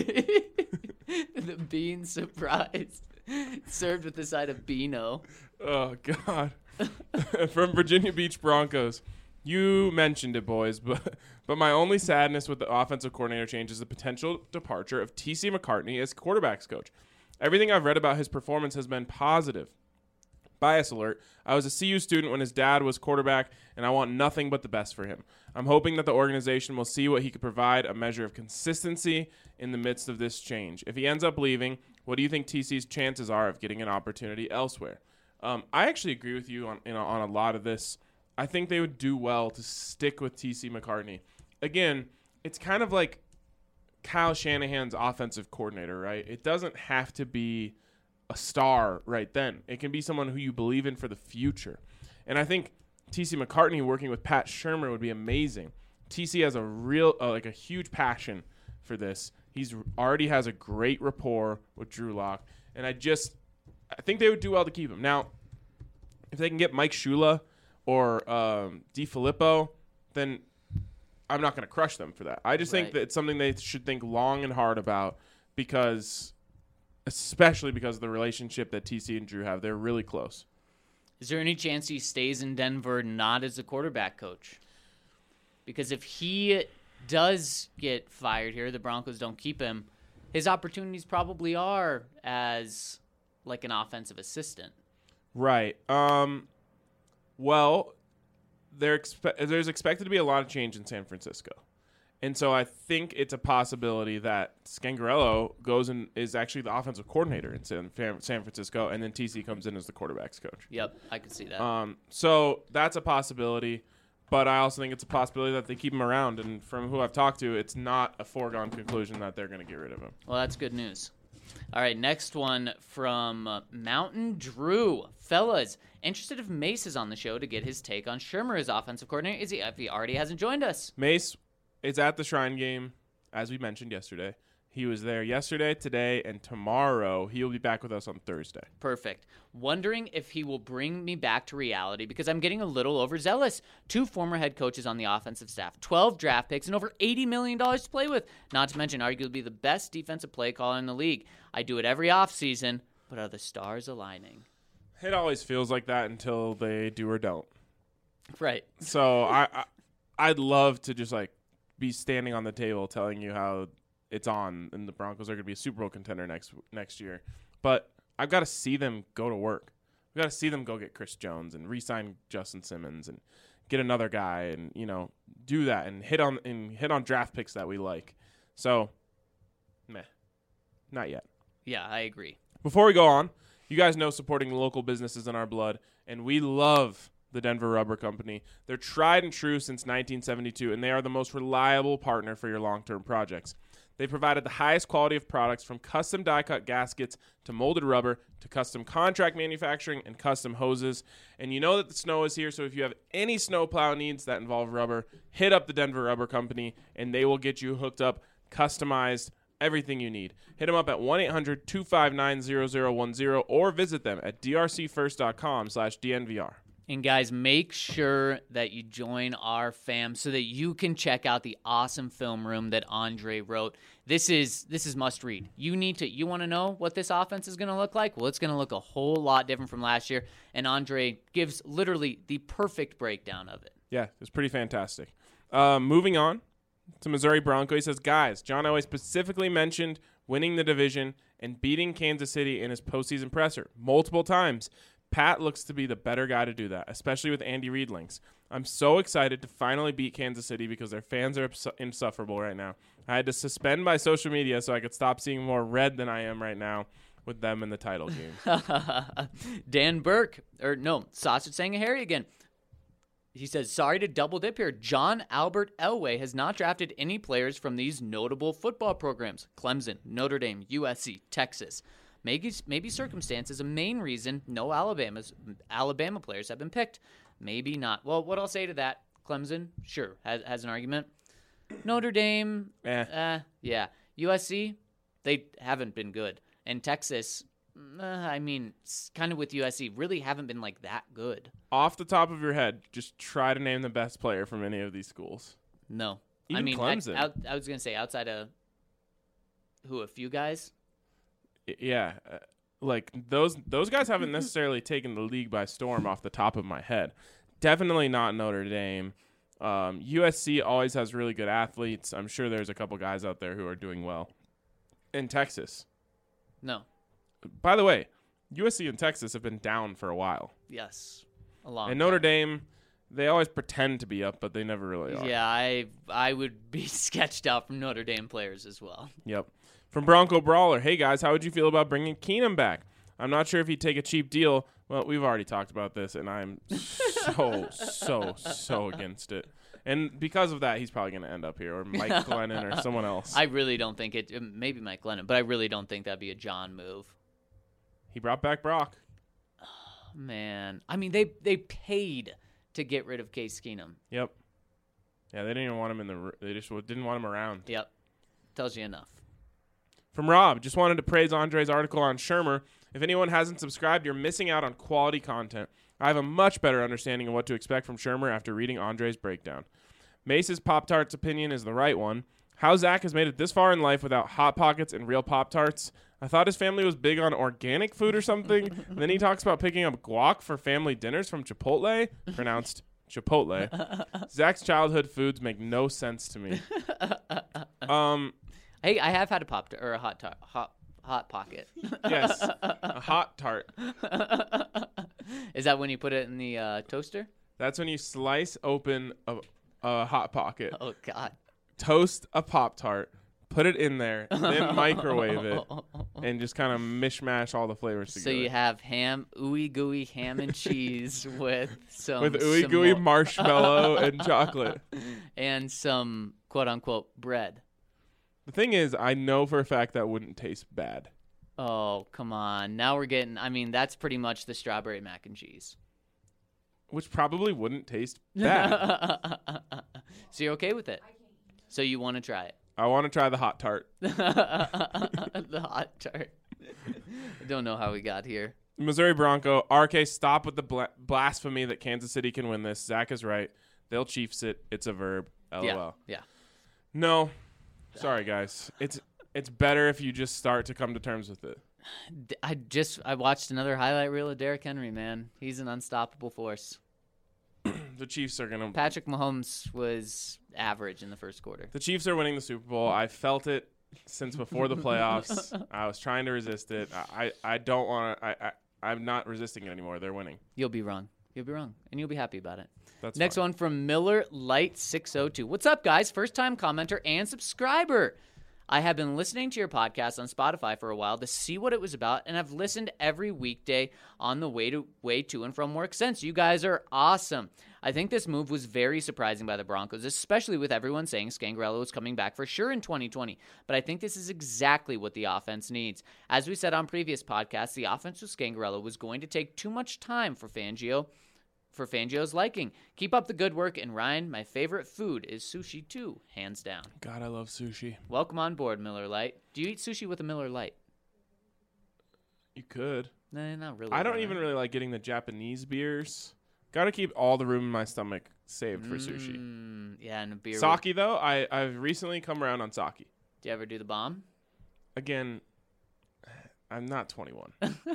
The bean surprise. Served with the side of Beano. Oh God. From Virginia Beach Broncos. You mentioned it, boys, but but my only sadness with the offensive coordinator change is the potential departure of T C McCartney as quarterbacks coach. Everything I've read about his performance has been positive. Bias alert. I was a C U student when his dad was quarterback, and I want nothing but the best for him. I'm hoping that the organization will see what he could provide, a measure of consistency in the midst of this change. If he ends up leaving, what do you think T C's chances are of getting an opportunity elsewhere? Um, I actually agree with you on, you know, on a lot of this. I think they would do well to stick with T C McCartney. Again, it's kind of like Kyle Shanahan's offensive coordinator, right? It doesn't have to be a star right then. It can be someone who you believe in for the future. And I think T C McCartney working with Pat Shurmur would be amazing. T C has a real, uh, like a huge passion for this. He's already has a great rapport with Drew Lock. And I just, I think they would do well to keep him. Now, if they can get Mike Shula or um, DiFilippo, then I'm not going to crush them for that. I just Right. think that it's something they should think long and hard about because, especially because of the relationship that T C and Drew have. They're really close. Is there any chance he stays in Denver not as a quarterback coach? Because if he does get fired here, the Broncos don't keep him, his opportunities probably are as like an offensive assistant. Right. Um, well, there expe- there's expected to be a lot of change in San Francisco. And so I think it's a possibility that Scangarello goes and is actually the offensive coordinator in San, San Francisco, and then T C comes in as the quarterback's coach. Yep, I can see that. Um, so that's a possibility, but I also think it's a possibility that they keep him around. And from who I've talked to, it's not a foregone conclusion that they're going to get rid of him. Well, that's good news. All right, next one from uh, Mountain Drew. Fellas, interested if Mace is on the show to get his take on Shermer as offensive coordinator. Is he, if he already hasn't joined us? Mace is at the Shrine game, as we mentioned yesterday. He was there yesterday, today, and tomorrow. He will be back with us on Thursday. Perfect. Wondering if he will bring me back to reality because I'm getting a little overzealous. Two former head coaches on the offensive staff, twelve draft picks, and over eighty million dollars to play with. Not to mention arguably the best defensive play caller in the league. I do it every offseason, but are the stars aligning? It always feels like that until they do or don't. Right. So I, I, I'd love to just like be standing on the table telling you how it's on and the Broncos are going to be a Super Bowl contender next next year. But I've got to see them go to work. We've got to see them go get Chris Jones and re-sign Justin Simmons and get another guy and, you know, do that and hit on and hit on draft picks that we like. So, meh. Not yet. Yeah, I agree. Before we go on, you guys know supporting local businesses in our blood, and we love the Denver Rubber Company. They're tried and true since nineteen seventy-two, and they are the most reliable partner for your long-term projects. They provided the highest quality of products from custom die-cut gaskets to molded rubber to custom contract manufacturing and custom hoses. And you know that the snow is here, so if you have any snowplow needs that involve rubber, hit up the Denver Rubber Company, and they will get you hooked up, customized, everything you need. Hit them up at one eight hundred two five nine zero zero one zero or visit them at d r c first dot com slash d n v r. And guys, make sure that you join our fam so that you can check out the awesome film room that Andre wrote. This is this is must read. You need to you want to know what this offense is going to look like? Well, it's going to look a whole lot different from last year, and Andre gives literally the perfect breakdown of it. Yeah, it's pretty fantastic. Uh, moving on to Missouri Bronco, he says, guys, John Elway specifically mentioned winning the division and beating Kansas City in his postseason presser multiple times. Pat looks to be the better guy to do that, especially with Andy Reid links. I'm so excited to finally beat Kansas City because their fans are insufferable right now. I had to suspend my social media so I could stop seeing more red than I am right now with them in the title game. Dan Burke, or no, Sausage saying a Harry again. He says, sorry to double dip here. John Albert Elway has not drafted any players from these notable football programs. Clemson, Notre Dame, U S C, Texas. Maybe, maybe circumstance is a main reason no Alabama's Alabama players have been picked. Maybe not. Well, what I'll say to that, Clemson, sure, has, has an argument. Notre Dame, eh. uh, yeah. U S C, they haven't been good. And Texas, uh, I mean, kind of with U S C, really haven't been like that good. Off the top of your head, just try to name the best player from any of these schools. No. Even I mean, Clemson. I, I, I was going to say outside of, who, a few guys? Yeah, uh, like those those guys haven't necessarily taken the league by storm off the top of my head. Definitely not Notre Dame. Um, U S C always has really good athletes. I'm sure there's a couple guys out there who are doing well. In Texas. No. By the way, U S C and Texas have been down for a while. Yes. A long And Notre time. Dame, they always pretend to be up, but they never really are. Yeah, I I would be sketched out from Notre Dame players as well. Yep. From Bronco Brawler, hey guys, how would you feel about bringing Keenum back? I'm not sure if he'd take a cheap deal. Well, we've already talked about this, and I'm so, so, so against it. And because of that, he's probably going to end up here, or Mike Glennon, or someone else. I really don't think it, maybe Mike Glennon, but I really don't think that'd be a John move. He brought back Brock. Man, I mean, they they paid to get rid of Case Keenum. Yep. Yeah, they didn't even want him in the. They just didn't want him around. Yep. Tells you enough. From Rob, just wanted to praise Andre's article on Shermer. If anyone hasn't subscribed, you're missing out on quality content. I have a much better understanding of what to expect from Shermer after reading Andre's breakdown. Mace's Pop-Tarts opinion is the right one. How Zach has made it this far in life without Hot Pockets and real Pop-Tarts. I thought his family was big on organic food or something. And then he talks about picking up guac for family dinners from Chipotle, pronounced Chipotle. Zach's childhood foods make no sense to me. Um... Hey, I have had a pop or a hot tar- hot hot pocket. Yes, a hot tart. Is that when you put it in the uh, toaster? That's when you slice open a, a Hot Pocket, Oh God! toast a Pop-Tart, put it in there, then microwave it, and just kind of mishmash all the flavors So together. you have ham, ooey gooey ham and cheese with some with ooey some gooey mo- marshmallow and chocolate. and some quote unquote bread. The thing is, I know for a fact that wouldn't taste bad. Oh, come on. Now we're getting, I mean, that's pretty much the strawberry mac and cheese. Which probably wouldn't taste bad. So you're okay with it? So you want to try it? I want to try the hot tart. The hot tart. I don't know how we got here. Missouri Bronco. R K, stop with the bla- blasphemy that Kansas City can win this. Zach is right. They'll Chiefs it. It's a verb. LOL. Yeah. Yeah. No. Sorry, guys. It's it's better if you just start to come to terms with it. D- I just I watched another highlight reel of Derrick Henry, man. He's an unstoppable force. The Chiefs are going to Patrick Mahomes was average in the first quarter. The Chiefs are winning the Super Bowl. I felt it since before the playoffs. I was trying to resist it. I, I, I don't want to. I, I, I'm not resisting it anymore. They're winning. You'll be wrong. You'll be wrong. And you'll be happy about it. That's Next fine. one from Miller Light six oh two. What's up, guys? First time commenter and subscriber. I have been listening to your podcast on Spotify for a while to see what it was about, and I've listened every weekday on the way to way to and from work since. You guys are awesome. I think this move was very surprising by the Broncos, especially with everyone saying Scangarello was coming back for sure in twenty twenty. But I think this is exactly what the offense needs. As we said on previous podcasts, the offense with Scangarello was going to take too much time for Fangio. For Fangio's liking. Keep up the good work, and Ryan, my favorite food is sushi too, hands down. God, I love sushi. Welcome on board, Miller Lite. Do you eat sushi with a Miller Lite? You could. Nah, not really. I don't no. even really like getting the Japanese beers. Got to keep all the room in my stomach saved for sushi. Mm, yeah, and a beer. Sake, with- though, I, I've recently come around on sake. Do you ever do the bomb? Again, I'm not twenty-one.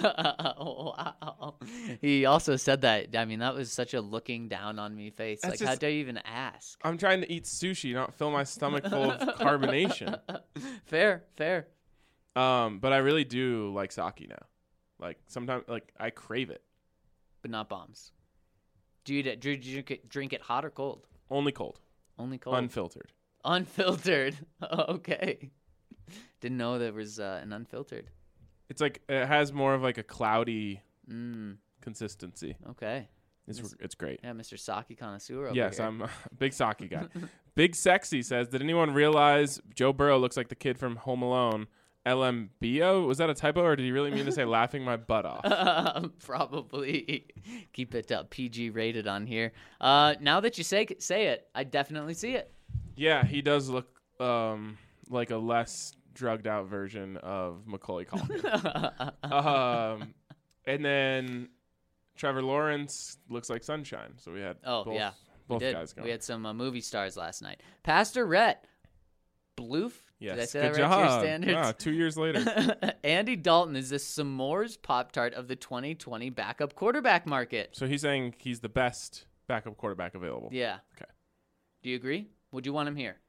Wow. He also said that. I mean, that was such a looking down on me face. That's like, how just- dare you even ask? I'm trying to eat sushi, not fill my stomach full of carbonation. Fair, fair. Um, but I really do like sake now. Like sometimes, like I crave it. But not bombs. Do you, do you drink it, drink it hot or cold? Only cold, Only cold. unfiltered. Unfiltered. Okay. Didn't know there was uh, an unfiltered. It's like it has more of like a cloudy Mm, consistency. okay. It's Miss- it's great. Yeah, Mister Sake connoisseur over Yes, here. I'm a big sake guy. Big Sexy says, did anyone realize Joe Burrow looks like the kid from Home Alone? L M B O? Was that a typo, or did he really mean to say laughing my butt off? Probably. Keep it uh, P G rated on here. Uh, now that you say say it, I definitely see it. Yeah, he does look um, like a less drugged out version of Macaulay Culkin. um, and then Trevor Lawrence looks like sunshine. So we had Oh, both, yeah. both we did. guys going. We had some uh, movie stars last night. Pastor Rhett. Bloof? Yes, Did I say good that right to your job. standards? Wow, two years later. Andy Dalton is the s'mores Pop-Tart of the twenty twenty backup quarterback market. So he's saying he's the best backup quarterback available. Yeah. Okay. Do you agree? Would you want him here?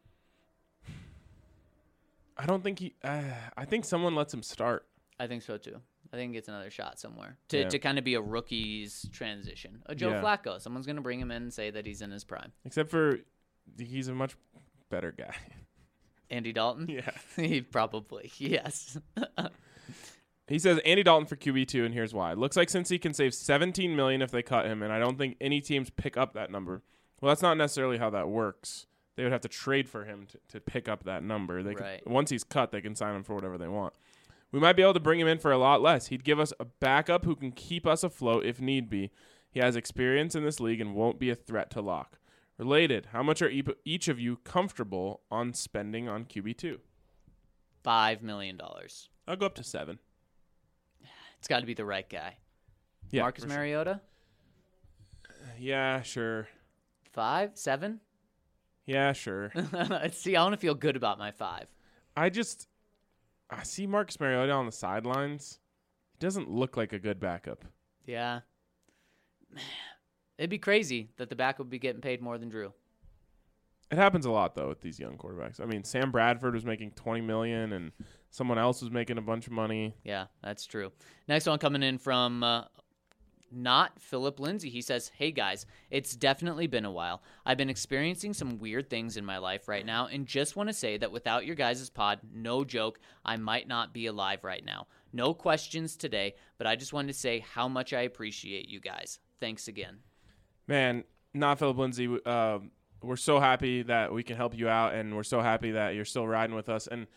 I don't think he. Uh, I think someone lets him start. I think so too. I think he gets another shot somewhere to, Yeah. to kind of be a rookie's transition. A Joe Yeah. Flacco. Someone's going to bring him in and say that he's in his prime. Except for he's a much better guy. Andy Dalton? Yeah. He probably, yes. He says Andy Dalton for Q B two, and here's why. Looks like Cincy can save seventeen million dollars if they cut him, and I don't think any teams pick up that number. Well, that's not necessarily how that works. They would have to trade for him to, to pick up that number. They Right. can, once he's cut, they can sign him for whatever they want. We might be able to bring him in for a lot less. He'd give us a backup who can keep us afloat if need be. He has experience in this league and won't be a threat to lock. Related, how much are e- each of you comfortable on spending on Q B two? Five million dollars. I'll go up to seven. It's got to be the right guy. Yeah, Marcus for sure. Mariota? Yeah, sure. Five? Seven? Yeah, sure. See, I want to feel good about my five. I just I see Marcus Mariota on the sidelines. He doesn't look like a good backup. Yeah. It'd be crazy that the back would be getting paid more than Drew. It happens a lot though with these young quarterbacks. I mean, Sam Bradford was making twenty million dollars and someone else was making a bunch of money. Yeah, that's true. Next one coming in from uh, not Philip Lindsay. He says, hey guys, it's definitely been a while. I've been experiencing some weird things in my life right now and just want to say that without your guys' pod, no joke, I might not be alive right now. No questions today, but I just wanted to say how much I appreciate you guys. Thanks again. Man, not Philip Lindsay. Uh, we're so happy that we can help you out, and we're so happy that you're still riding with us. And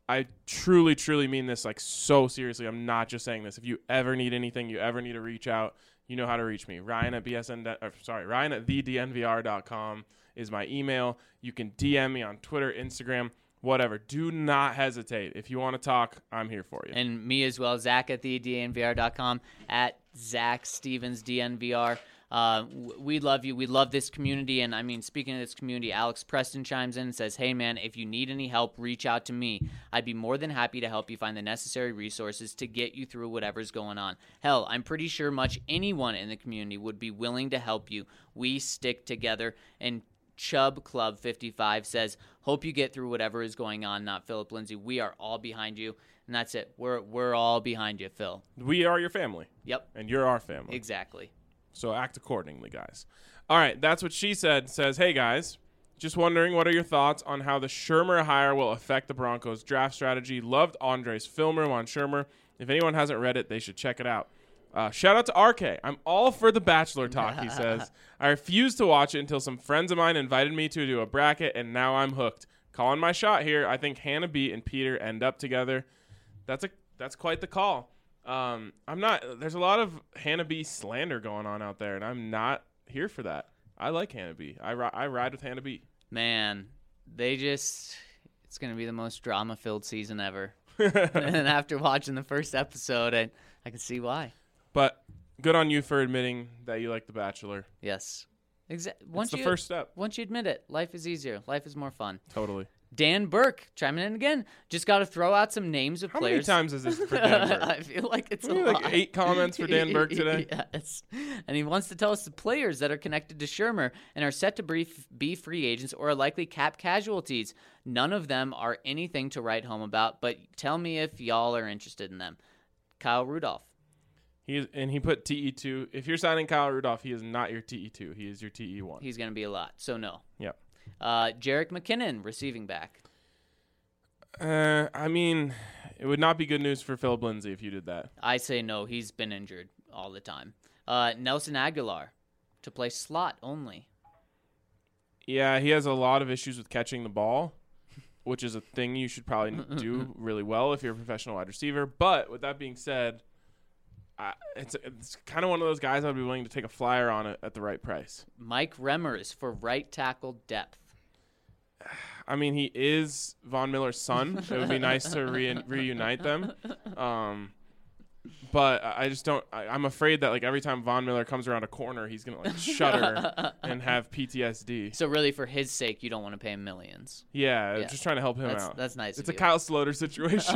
I truly, truly mean this like so seriously. I'm not just saying this. If you ever need anything, you ever need to reach out, you know how to reach me. Ryan at B S N, or, sorry, Ryan at the D N V R dot com is my email. You can D M me on Twitter, Instagram, whatever. Do not hesitate. If you want to talk, I'm here for you. And me as well, Zach at the D N V R dot com, at Zach Stevens D N V R. Uh, we love you. We love this community. And I mean, speaking of this community, Alex Preston chimes in and says, hey, man, if you need any help, reach out to me. I'd be more than happy to help you find the necessary resources to get you through whatever's going on. Hell, I'm pretty sure much anyone in the community would be willing to help you. We stick together. And Chubb Club fifty-five says, hope you get through whatever is going on, not Philip Lindsay. We are all behind you. And that's it. We're, we're all behind you, Phil. We are your family. Yep. And you're our family. Exactly. So act accordingly, guys. All right, that's what she said. Says, hey, guys, just wondering, what are your thoughts on how the Shurmur hire will affect the Broncos' draft strategy? Loved Andre's film room on Shurmur. If anyone hasn't read it, they should check it out. Uh, shout out to R K. I'm all for the Bachelor talk, he says. I refused to watch it until some friends of mine invited me to do a bracket, and now I'm hooked. Calling my shot here. I think Hannah B and Peter end up together. That's a that's quite the call. Um, I'm not. There's a lot of Hannah B slander going on out there, and I'm not here for that. I like Hannah B. I, ri- I ride with Hannah B. Man, they just, it's going to be the most drama-filled season ever. And after watching the first episode, I, I can see why. But good on you for admitting that you like The Bachelor. Yes. Exa- once It's the you, first step. Once you admit it, life is easier. Life is more fun. Totally. Dan Burke chiming in again. Just got to throw out some names of How players. many times is this for Dan Burke? I feel like it's a Maybe lot. like eight comments for Dan Burke today. Yes. And he wants to tell us the players that are connected to Shurmur and are set to brief, be free agents or are likely cap casualties. None of them are anything to write home about, but tell me if y'all are interested in them. Kyle Rudolph. He is, and he put T E two. If you're signing Kyle Rudolph, he is not your T E two. He is your T E one. He's going to be a lot, so no. Yep. Uh, Jerick McKinnon, receiving back. Uh, I mean, it would not be good news for Philip Lindsay if you did that. I say no. He's been injured all the time. Uh, Nelson Aguilar, to play slot only. Yeah, he has a lot of issues with catching the ball, which is a thing you should probably do really well if you're a professional wide receiver. But with that being said, I, it's it's kind of one of those guys I'd be willing to take a flyer on it at the right price. Mike Remmers for right tackle depth. I mean, he is Von Miller's son. It would be nice to re- reunite them. Um, but I just don't. I, I'm afraid that like every time Von Miller comes around a corner, he's gonna like shudder and have P T S D. So really, for his sake, you don't want to pay him millions. Yeah, Yeah. just trying to help him That's, out. that's nice. It's of a you. Kyle Sloter situation.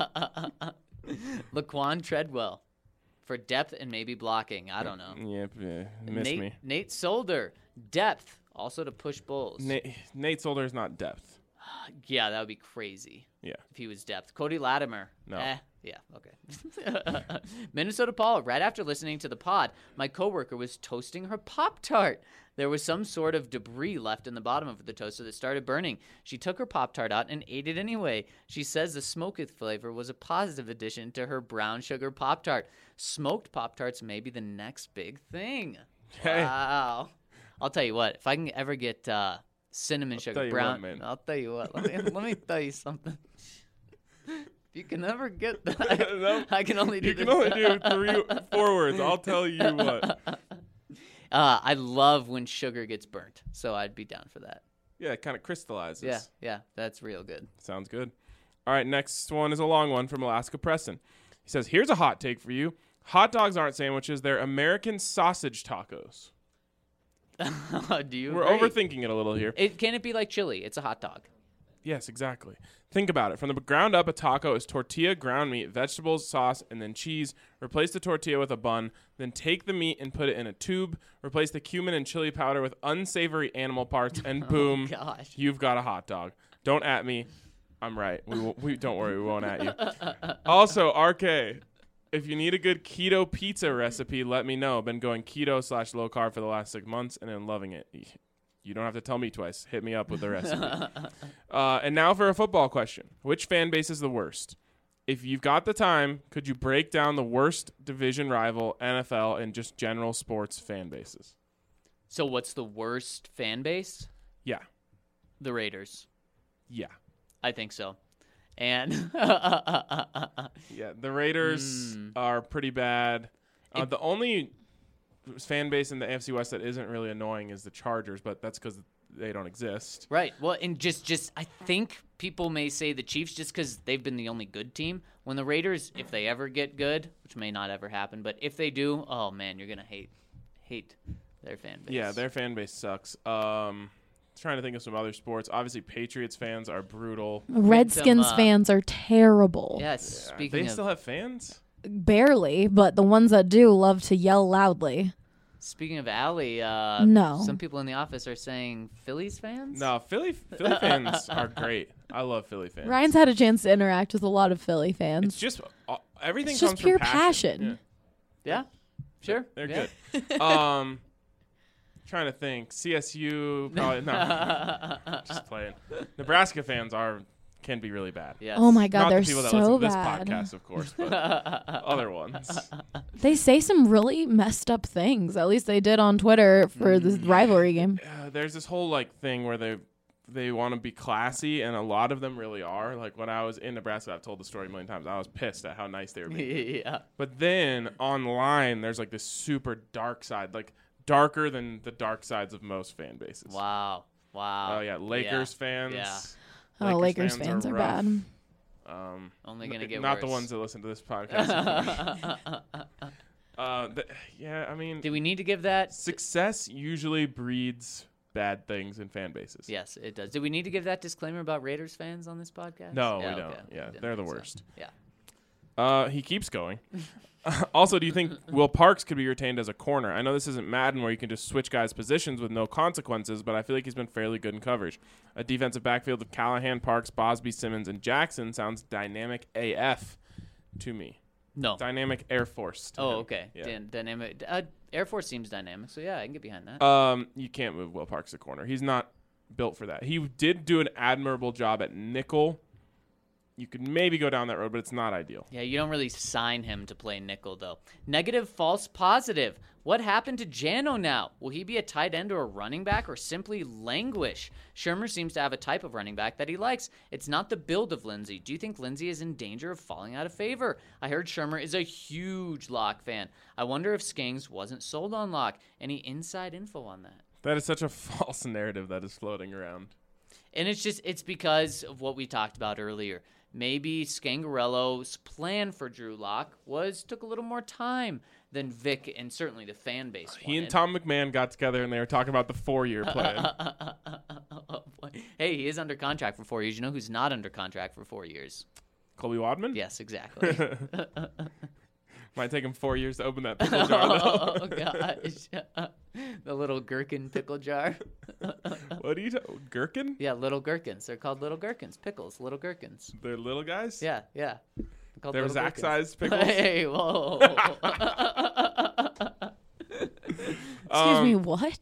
Laquan Treadwell for depth and maybe blocking. I don't know. Yep, yeah, missed Nate, me. Nate Solder, depth, also to push bulls. Nate, Nate Solder is not depth. Yeah, that would be crazy Yeah. if he was depth. Cody Latimer. No. Eh, yeah, okay. Minnesota Paul, right after listening to the pod, my coworker was toasting her Pop-Tart. There was some sort of debris left in the bottom of the toaster that started burning. She took her Pop-Tart out and ate it anyway. She says the smoked flavor was a positive addition to her brown sugar Pop-Tart. Smoked Pop-Tarts may be the next big thing. Hey. Wow. I'll tell you what, if I can ever get uh, cinnamon I'll sugar tell you brown, what, man. I'll tell you what. Let me, let me tell you something. If you can ever get that, No, I can only do You can this. only do three, four words. I'll tell you what. Uh, I love when sugar gets burnt, so I'd be down for that. Yeah, it kind of crystallizes. Yeah, yeah, that's real good. Sounds good. All right, next one is a long one from Alaska Preston. He says, here's a hot take for you. Hot dogs aren't sandwiches. They're American sausage tacos. Do you? We're agree? overthinking it a little here. It can it be like chili? It's a hot dog. Yes, exactly. Think about it. From the ground up, a taco is tortilla, ground meat, vegetables, sauce, and then cheese. Replace the tortilla with a bun. Then take the meat and put it in a tube. Replace the cumin and chili powder with unsavory animal parts, and boom, Gosh. you've got a hot dog. Don't at me. I'm right. We, will, we don't worry. We won't at you. Also, R K, if you need a good keto pizza recipe, let me know. Been going keto slash low carb for the last six months, and I'm loving it. You don't have to tell me twice. Hit me up with the recipe. uh, and now for a football question. Which fan base is the worst? If you've got the time, could you break down the worst division rival, N F L, and just general sports fan bases? So what's the worst fan base? Yeah. The Raiders. Yeah. I think so. And Yeah, the Raiders Mm. are pretty bad. Uh, It- the only fan base in the A F C West that isn't really annoying is the Chargers, but that's because they don't exist. right, well, and just, just I think people may say the Chiefs just because they've been the only good team. When the Raiders, if they ever get good, which may not ever happen, but if they do, oh man, you're gonna hate, hate their fan base. Yeah, their fan base sucks. Um, trying to think of some other sports. Obviously, Patriots fans are brutal. Redskins uh, fans are terrible. Yes. Yeah, Speaking they of still have fans? Barely, but the ones that do love to yell loudly. speaking of Allie, uh, No. some people in the office are saying Phillies fans. No, Philly Philly fans are great. I love Philly fans. Ryan's had a chance to interact with a lot of Philly It's fans. just uh, everything It's comes just pure from passion. passion. Yeah, sure. They're yeah. good. um, trying to think. C S U probably no. Just playing. Nebraska fans are can be really bad. Yes. Oh my god, Not they're the people that so listen to this bad. podcast, of course, but other ones. They say some really messed up things. At least they did on Twitter for this rivalry game. Uh, there's this whole like thing where they they want to be classy, and a lot of them really are. Like when I was in Nebraska, I've told the story a million times. I was pissed at how nice they were being. yeah. But then online, there's like this super dark side, like darker than the dark sides of most fan bases. Wow. Wow. Oh yeah, Lakers fans. Yeah. Oh, Lakers fans fans are rough. bad. Um, Only gonna n- get not the worse. ones that listen to this podcast. uh, th- yeah, I mean, Do we need to give that? success usually breeds bad things in fan bases. Yes, it does. Do we need to give that disclaimer about Raiders fans on this podcast? No, Yeah, we don't. okay. Yeah, Didn't they're the think so. worst. Yeah. Uh, he keeps going. Also, do you think Will Parks could be retained as a corner? I know this isn't Madden where you can just switch guys' positions with no consequences, but I feel like he's been fairly good in coverage. A defensive backfield of Callahan, Parks, Bosby, Simmons, and Jackson sounds dynamic A F to me. No. Dynamic Air Force. to Oh, him. okay. Yeah. Dan- dynamic. Uh, Air Force seems dynamic, so yeah, I can get behind that. Um, you can't move Will Parks to corner. He's not built for that. He did do an admirable job at nickel. You could maybe go down that road, but it's not ideal. Yeah, you don't really sign him to play nickel, though. Negative, false, positive. What happened to Jano now? Will he be a tight end or a running back or simply languish? Shermer seems to have a type of running back that he likes. It's not the build of Lindsey. Do you think Lindsey is in danger of falling out of favor? I heard Shermer is a huge Locke fan. I wonder if Skangs wasn't sold on Locke. Any inside info on that? That is such a false narrative that is floating around. And it's just, it's because of what we talked about earlier. Maybe Scangarello's plan for Drew Lock was took a little more time than Vic and certainly the fan base He and wanted. Tom McMahon got together and they were talking about the four-year plan. Oh, boy. Hey, he is under contract for four years. You know who's not under contract for four years? Colby Wadman? Yes, exactly. Might take him four years to open that pickle jar, though. Oh, gosh. The little gherkin pickle jar. What are you talking? Gherkin? Yeah, little gherkins. They're called little gherkins. Pickles, little gherkins. They're little guys? Yeah, yeah. They're called They're little gherkins. Zach-sized pickles? Hey, whoa. Excuse Um, me, what?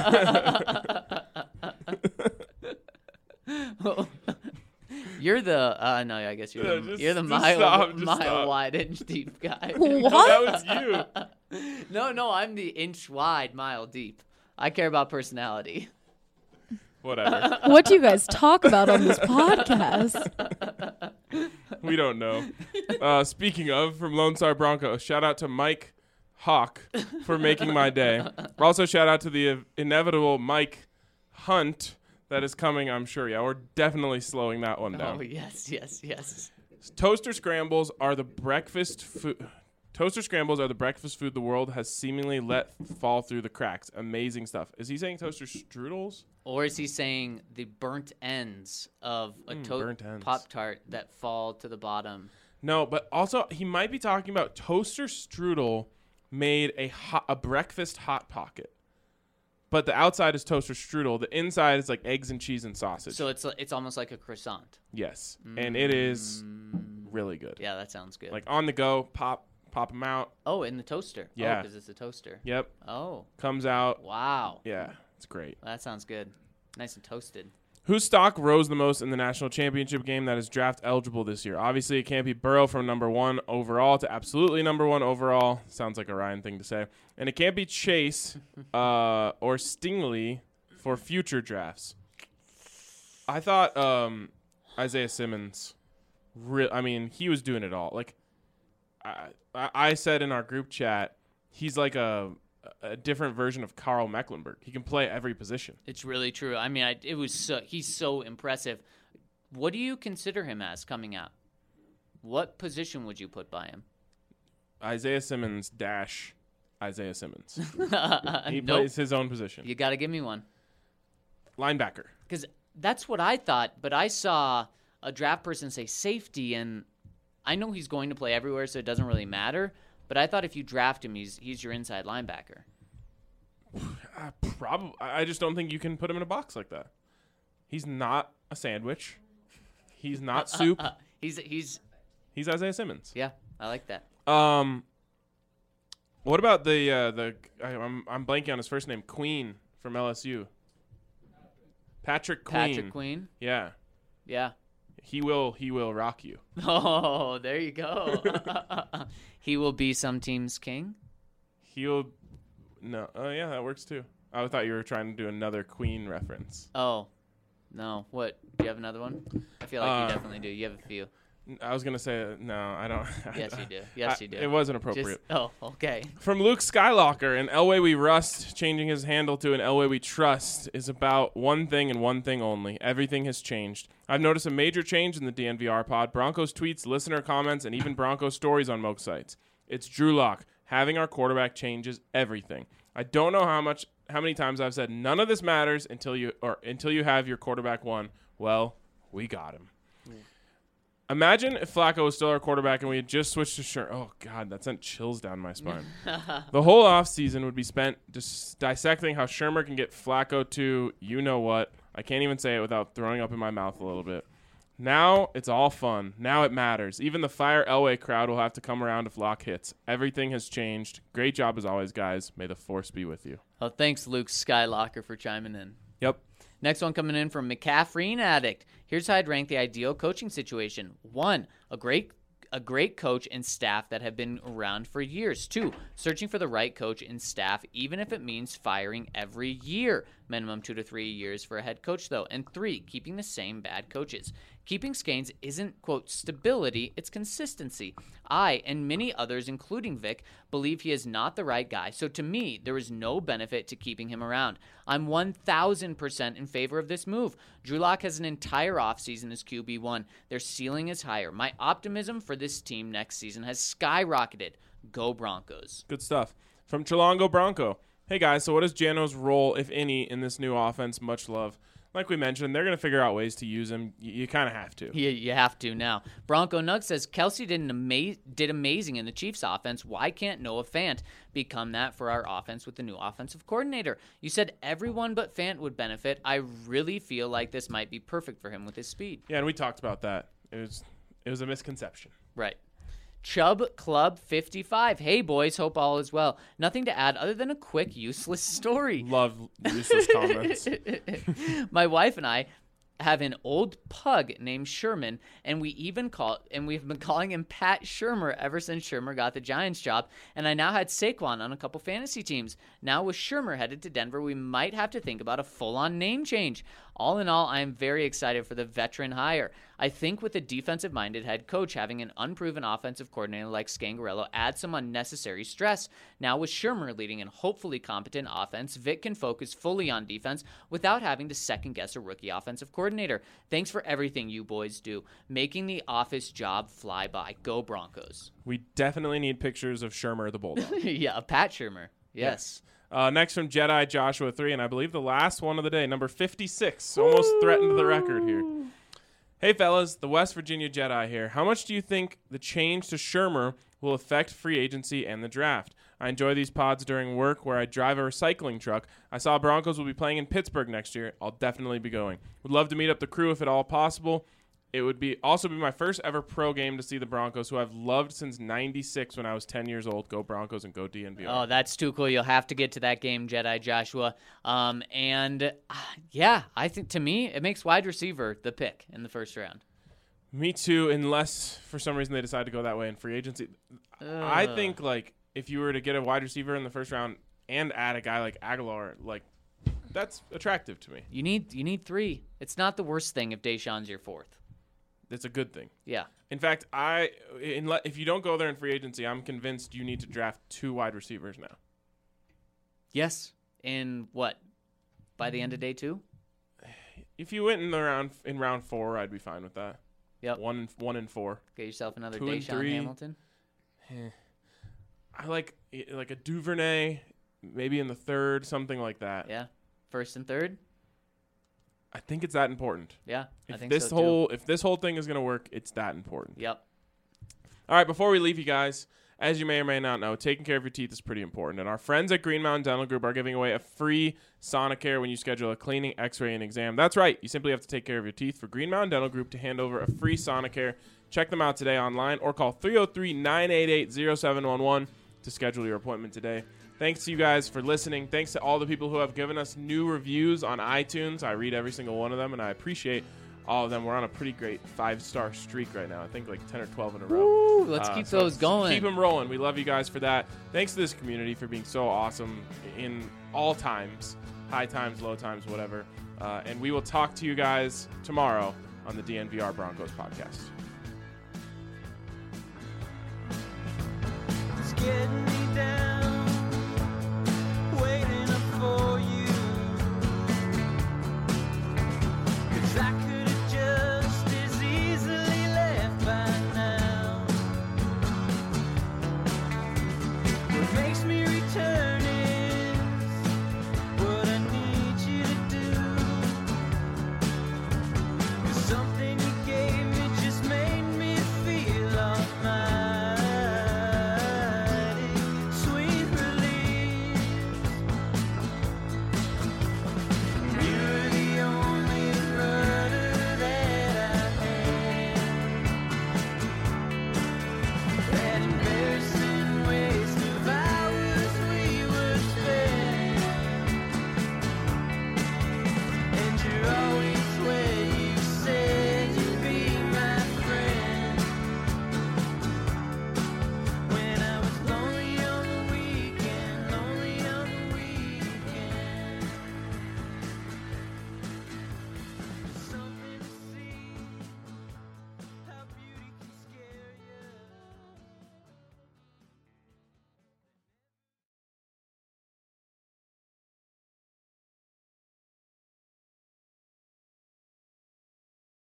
You're the uh no, I guess you're Yeah, the, just- you're the just mile stop, just mile stop. wide inch deep guy. No, What? that was you. No, no, I'm the inch wide, mile deep. I care about personality. Whatever. What do you guys talk about on this podcast? We don't know. Uh, speaking of, from Lone Star Bronco, shout out to Mike Hawk for making my day. Also, shout out to the uh, inevitable Mike Hunt that is coming, I'm sure. Yeah, we're definitely slowing that one down. Oh yes, yes, yes. Toaster scrambles are the breakfast food. Toaster scrambles are the breakfast food the world has seemingly let fall through the cracks. Amazing stuff. Is he saying toaster strudels? Or is he saying the burnt ends of a Mm, to- burnt ends. Pop Tart that fall to the bottom? No, but also he might be talking about toaster strudel made a hot, a breakfast hot pocket. But the outside is toaster strudel. The inside is like eggs and cheese and sausage. So it's it's almost like a croissant. yes, and it is really good. Yeah, that sounds good. Like on the go, pop pop them out. oh, in the toaster. Yeah. because it's a toaster. Yep, Oh, comes out. wow. Yeah, it's great. That sounds good. Nice and toasted. Whose stock rose the most in the national championship game that is draft eligible this year? Obviously, it can't be Burrow from number one overall to absolutely number one overall. Sounds like a Ryan thing to say. And it can't be Chase uh, or Stingley for future drafts. I thought um, Isaiah Simmons Re- I mean, he was doing it all. Like I, I I said in our group chat, he's like a a different version of Carl Mecklenburg. He can play every position. It's really true. I mean, I, it was so, he's so impressive. What do you consider him as coming out? What position would you put by him? Isaiah Simmons dash Isaiah Simmons. He Nope. plays his own position. You got to give me one. Linebacker. Because that's what I thought, but I saw a draft person say safety, and I know he's going to play everywhere, so it doesn't really matter. But I thought if you draft him, he's he's your inside linebacker. Uh, probably. I just don't think you can put him in a box like that. He's not a sandwich. He's not soup. Uh, he's he's He's Isaiah Simmons. yeah, I like that. Um, what about the uh, the? I, I'm I'm blanking on his first name. Queen from L S U. Patrick Queen. Patrick Queen. Yeah, Yeah. he will. He will rock you. Oh, there you go. He will be some team's king. He'll. No. Oh yeah, that works too. I thought you were trying to do another Queen reference. Oh, no. What? Do you have another one? I feel like Uh, you definitely do. You have a few. I was gonna say uh, no. I don't. Yes, you do. Yes, I- you do. It wasn't Just, appropriate. oh, okay. From Luke Skylocker, an Elway we rust, changing his handle to an Elway we trust is about one thing and one thing only. Everything has changed. I've noticed a major change in the D N V R pod, Broncos tweets, listener comments, and even Broncos stories on Moke sites. It's Drew Lock. Having our quarterback changes everything. I don't know how much, how many times I've said none of this matters until you or until you have your quarterback one. Well, we got him. Imagine if Flacco was still our quarterback and we had just switched to Shermer. Oh, God, that sent chills down my spine. The whole offseason would be spent just dissecting how Shermer can get Flacco to you-know-what. I can't even say it without throwing up in my mouth a little bit. Now it's all fun. Now it matters. Even the Fire Elway crowd will have to come around if Lock hits. Everything has changed. Great job as always, guys. May the force be with you. Oh, thanks, Luke Skylocker, for chiming in. Yep. Next one coming in from McCaffrey Addict. Here's how I'd rank the ideal coaching situation. One, a great a great coach and staff that have been around for years. Two, searching for the right coach and staff, even if it means firing every year. Minimum two to three years for a head coach, though. And three, keeping the same bad coaches. Keeping Scanes isn't, quote, stability, it's consistency. I, and many others, including Vic, believe he is not the right guy, so to me, there is no benefit to keeping him around. I'm one thousand percent in favor of this move. Drew Lock has an entire offseason as Q B one. Their ceiling is higher. My optimism for this team next season has skyrocketed. Go Broncos. Good stuff. From Chilongo Bronco. Hey, guys, so what is Jano's role, if any, in this new offense? Much love. Like we mentioned, they're going to figure out ways to use him. You, you kind of have to. You, you have to now. Bronco Nug says, Kelsey did, an ama- did amazing in the Chiefs offense. Why can't Noah Fant become that for our offense with the new offensive coordinator? You said everyone but Fant would benefit. I really feel like this might be perfect for him with his speed. Yeah, and we talked about that. It was it was a misconception. Right. Chubb Club fifty-five. Hey, boys. Hope all is well. Nothing to add other than a quick, useless story. Love useless comments. My wife and I have an old pug named Sherman, and we even call and we've been calling him Pat Shermer ever since Shermer got the Giants job. And I now had Saquon on a couple fantasy teams. Now with Shermer headed to Denver, we might have to think about a full-on name change. All in all, I am very excited for the veteran hire. I think with a defensive-minded head coach, having an unproven offensive coordinator like Scangarello adds some unnecessary stress. Now with Shermer leading an hopefully competent offense, Vic can focus fully on defense without having to second-guess a rookie offensive coordinator. Thanks for everything you boys do, making the office job fly by. Go Broncos. We definitely need pictures of Shermer the Bulldog. Yeah, Pat Shermer. Yes. Uh, next from Jedi Joshua three, and I believe the last one of the day, number fifty-six. Almost threatened the record here. Hey, fellas, the West Virginia Jedi here. How much do you think the change to Shermer will affect free agency and the draft? I enjoy these pods during work where I drive a recycling truck. I saw Broncos will be playing in Pittsburgh next year. I'll definitely be going. Would love to meet up the crew if at all possible. It would be also be my first ever pro game to see the Broncos, who I've loved since ninety-six when I was ten years old. Go Broncos and go D N V R. Oh, that's too cool. You'll have to get to that game, Jedi Joshua. Um, and, uh, yeah, I think to me it makes wide receiver the pick in the first round. Me too, unless for some reason they decide to go that way in free agency. I Ugh. think, like, if you were to get a wide receiver in the first round and add a guy like Aguilar, like, that's attractive to me. You need you need three. It's not the worst thing if Deshaun's your fourth. it's a good thing. Yeah. In fact, I in, if you don't go there in free agency, I'm convinced you need to draft two wide receivers now. Yes. In what? By the end of day two? If you went in the round in round four, I'd be fine with that. Yep. One and one and four. Get yourself another Two and Deshaun three. Hamilton. I like like a Duvernay, maybe in the third, something like that. Yeah. First and third? I think it's that important. Yeah. I If think this so whole too. if this whole thing is gonna work, it's that important. Yep. All right, before we leave you guys, as you may or may not know, taking care of your teeth is pretty important. And our friends at Green Mountain Dental Group are giving away a free Sonicare when you schedule a cleaning, x-ray, and exam. That's right. You simply have to take care of your teeth for Green Mountain Dental Group to hand over a free Sonicare. Check them out today online or call three oh three, nine eight eight, oh seven one one to schedule your appointment today. Thanks to you guys for listening. Thanks to all the people who have given us new reviews on iTunes. I read every single one of them, and I appreciate all of them. We're on a pretty great five-star streak right now. I think like ten or twelve in a row. Woo, let's Uh, keep so those going. Keep them rolling. We love you guys for that. Thanks to this community for being so awesome in all times, high times, low times, whatever. Uh, and we will talk to you guys tomorrow on the D N V R Broncos podcast.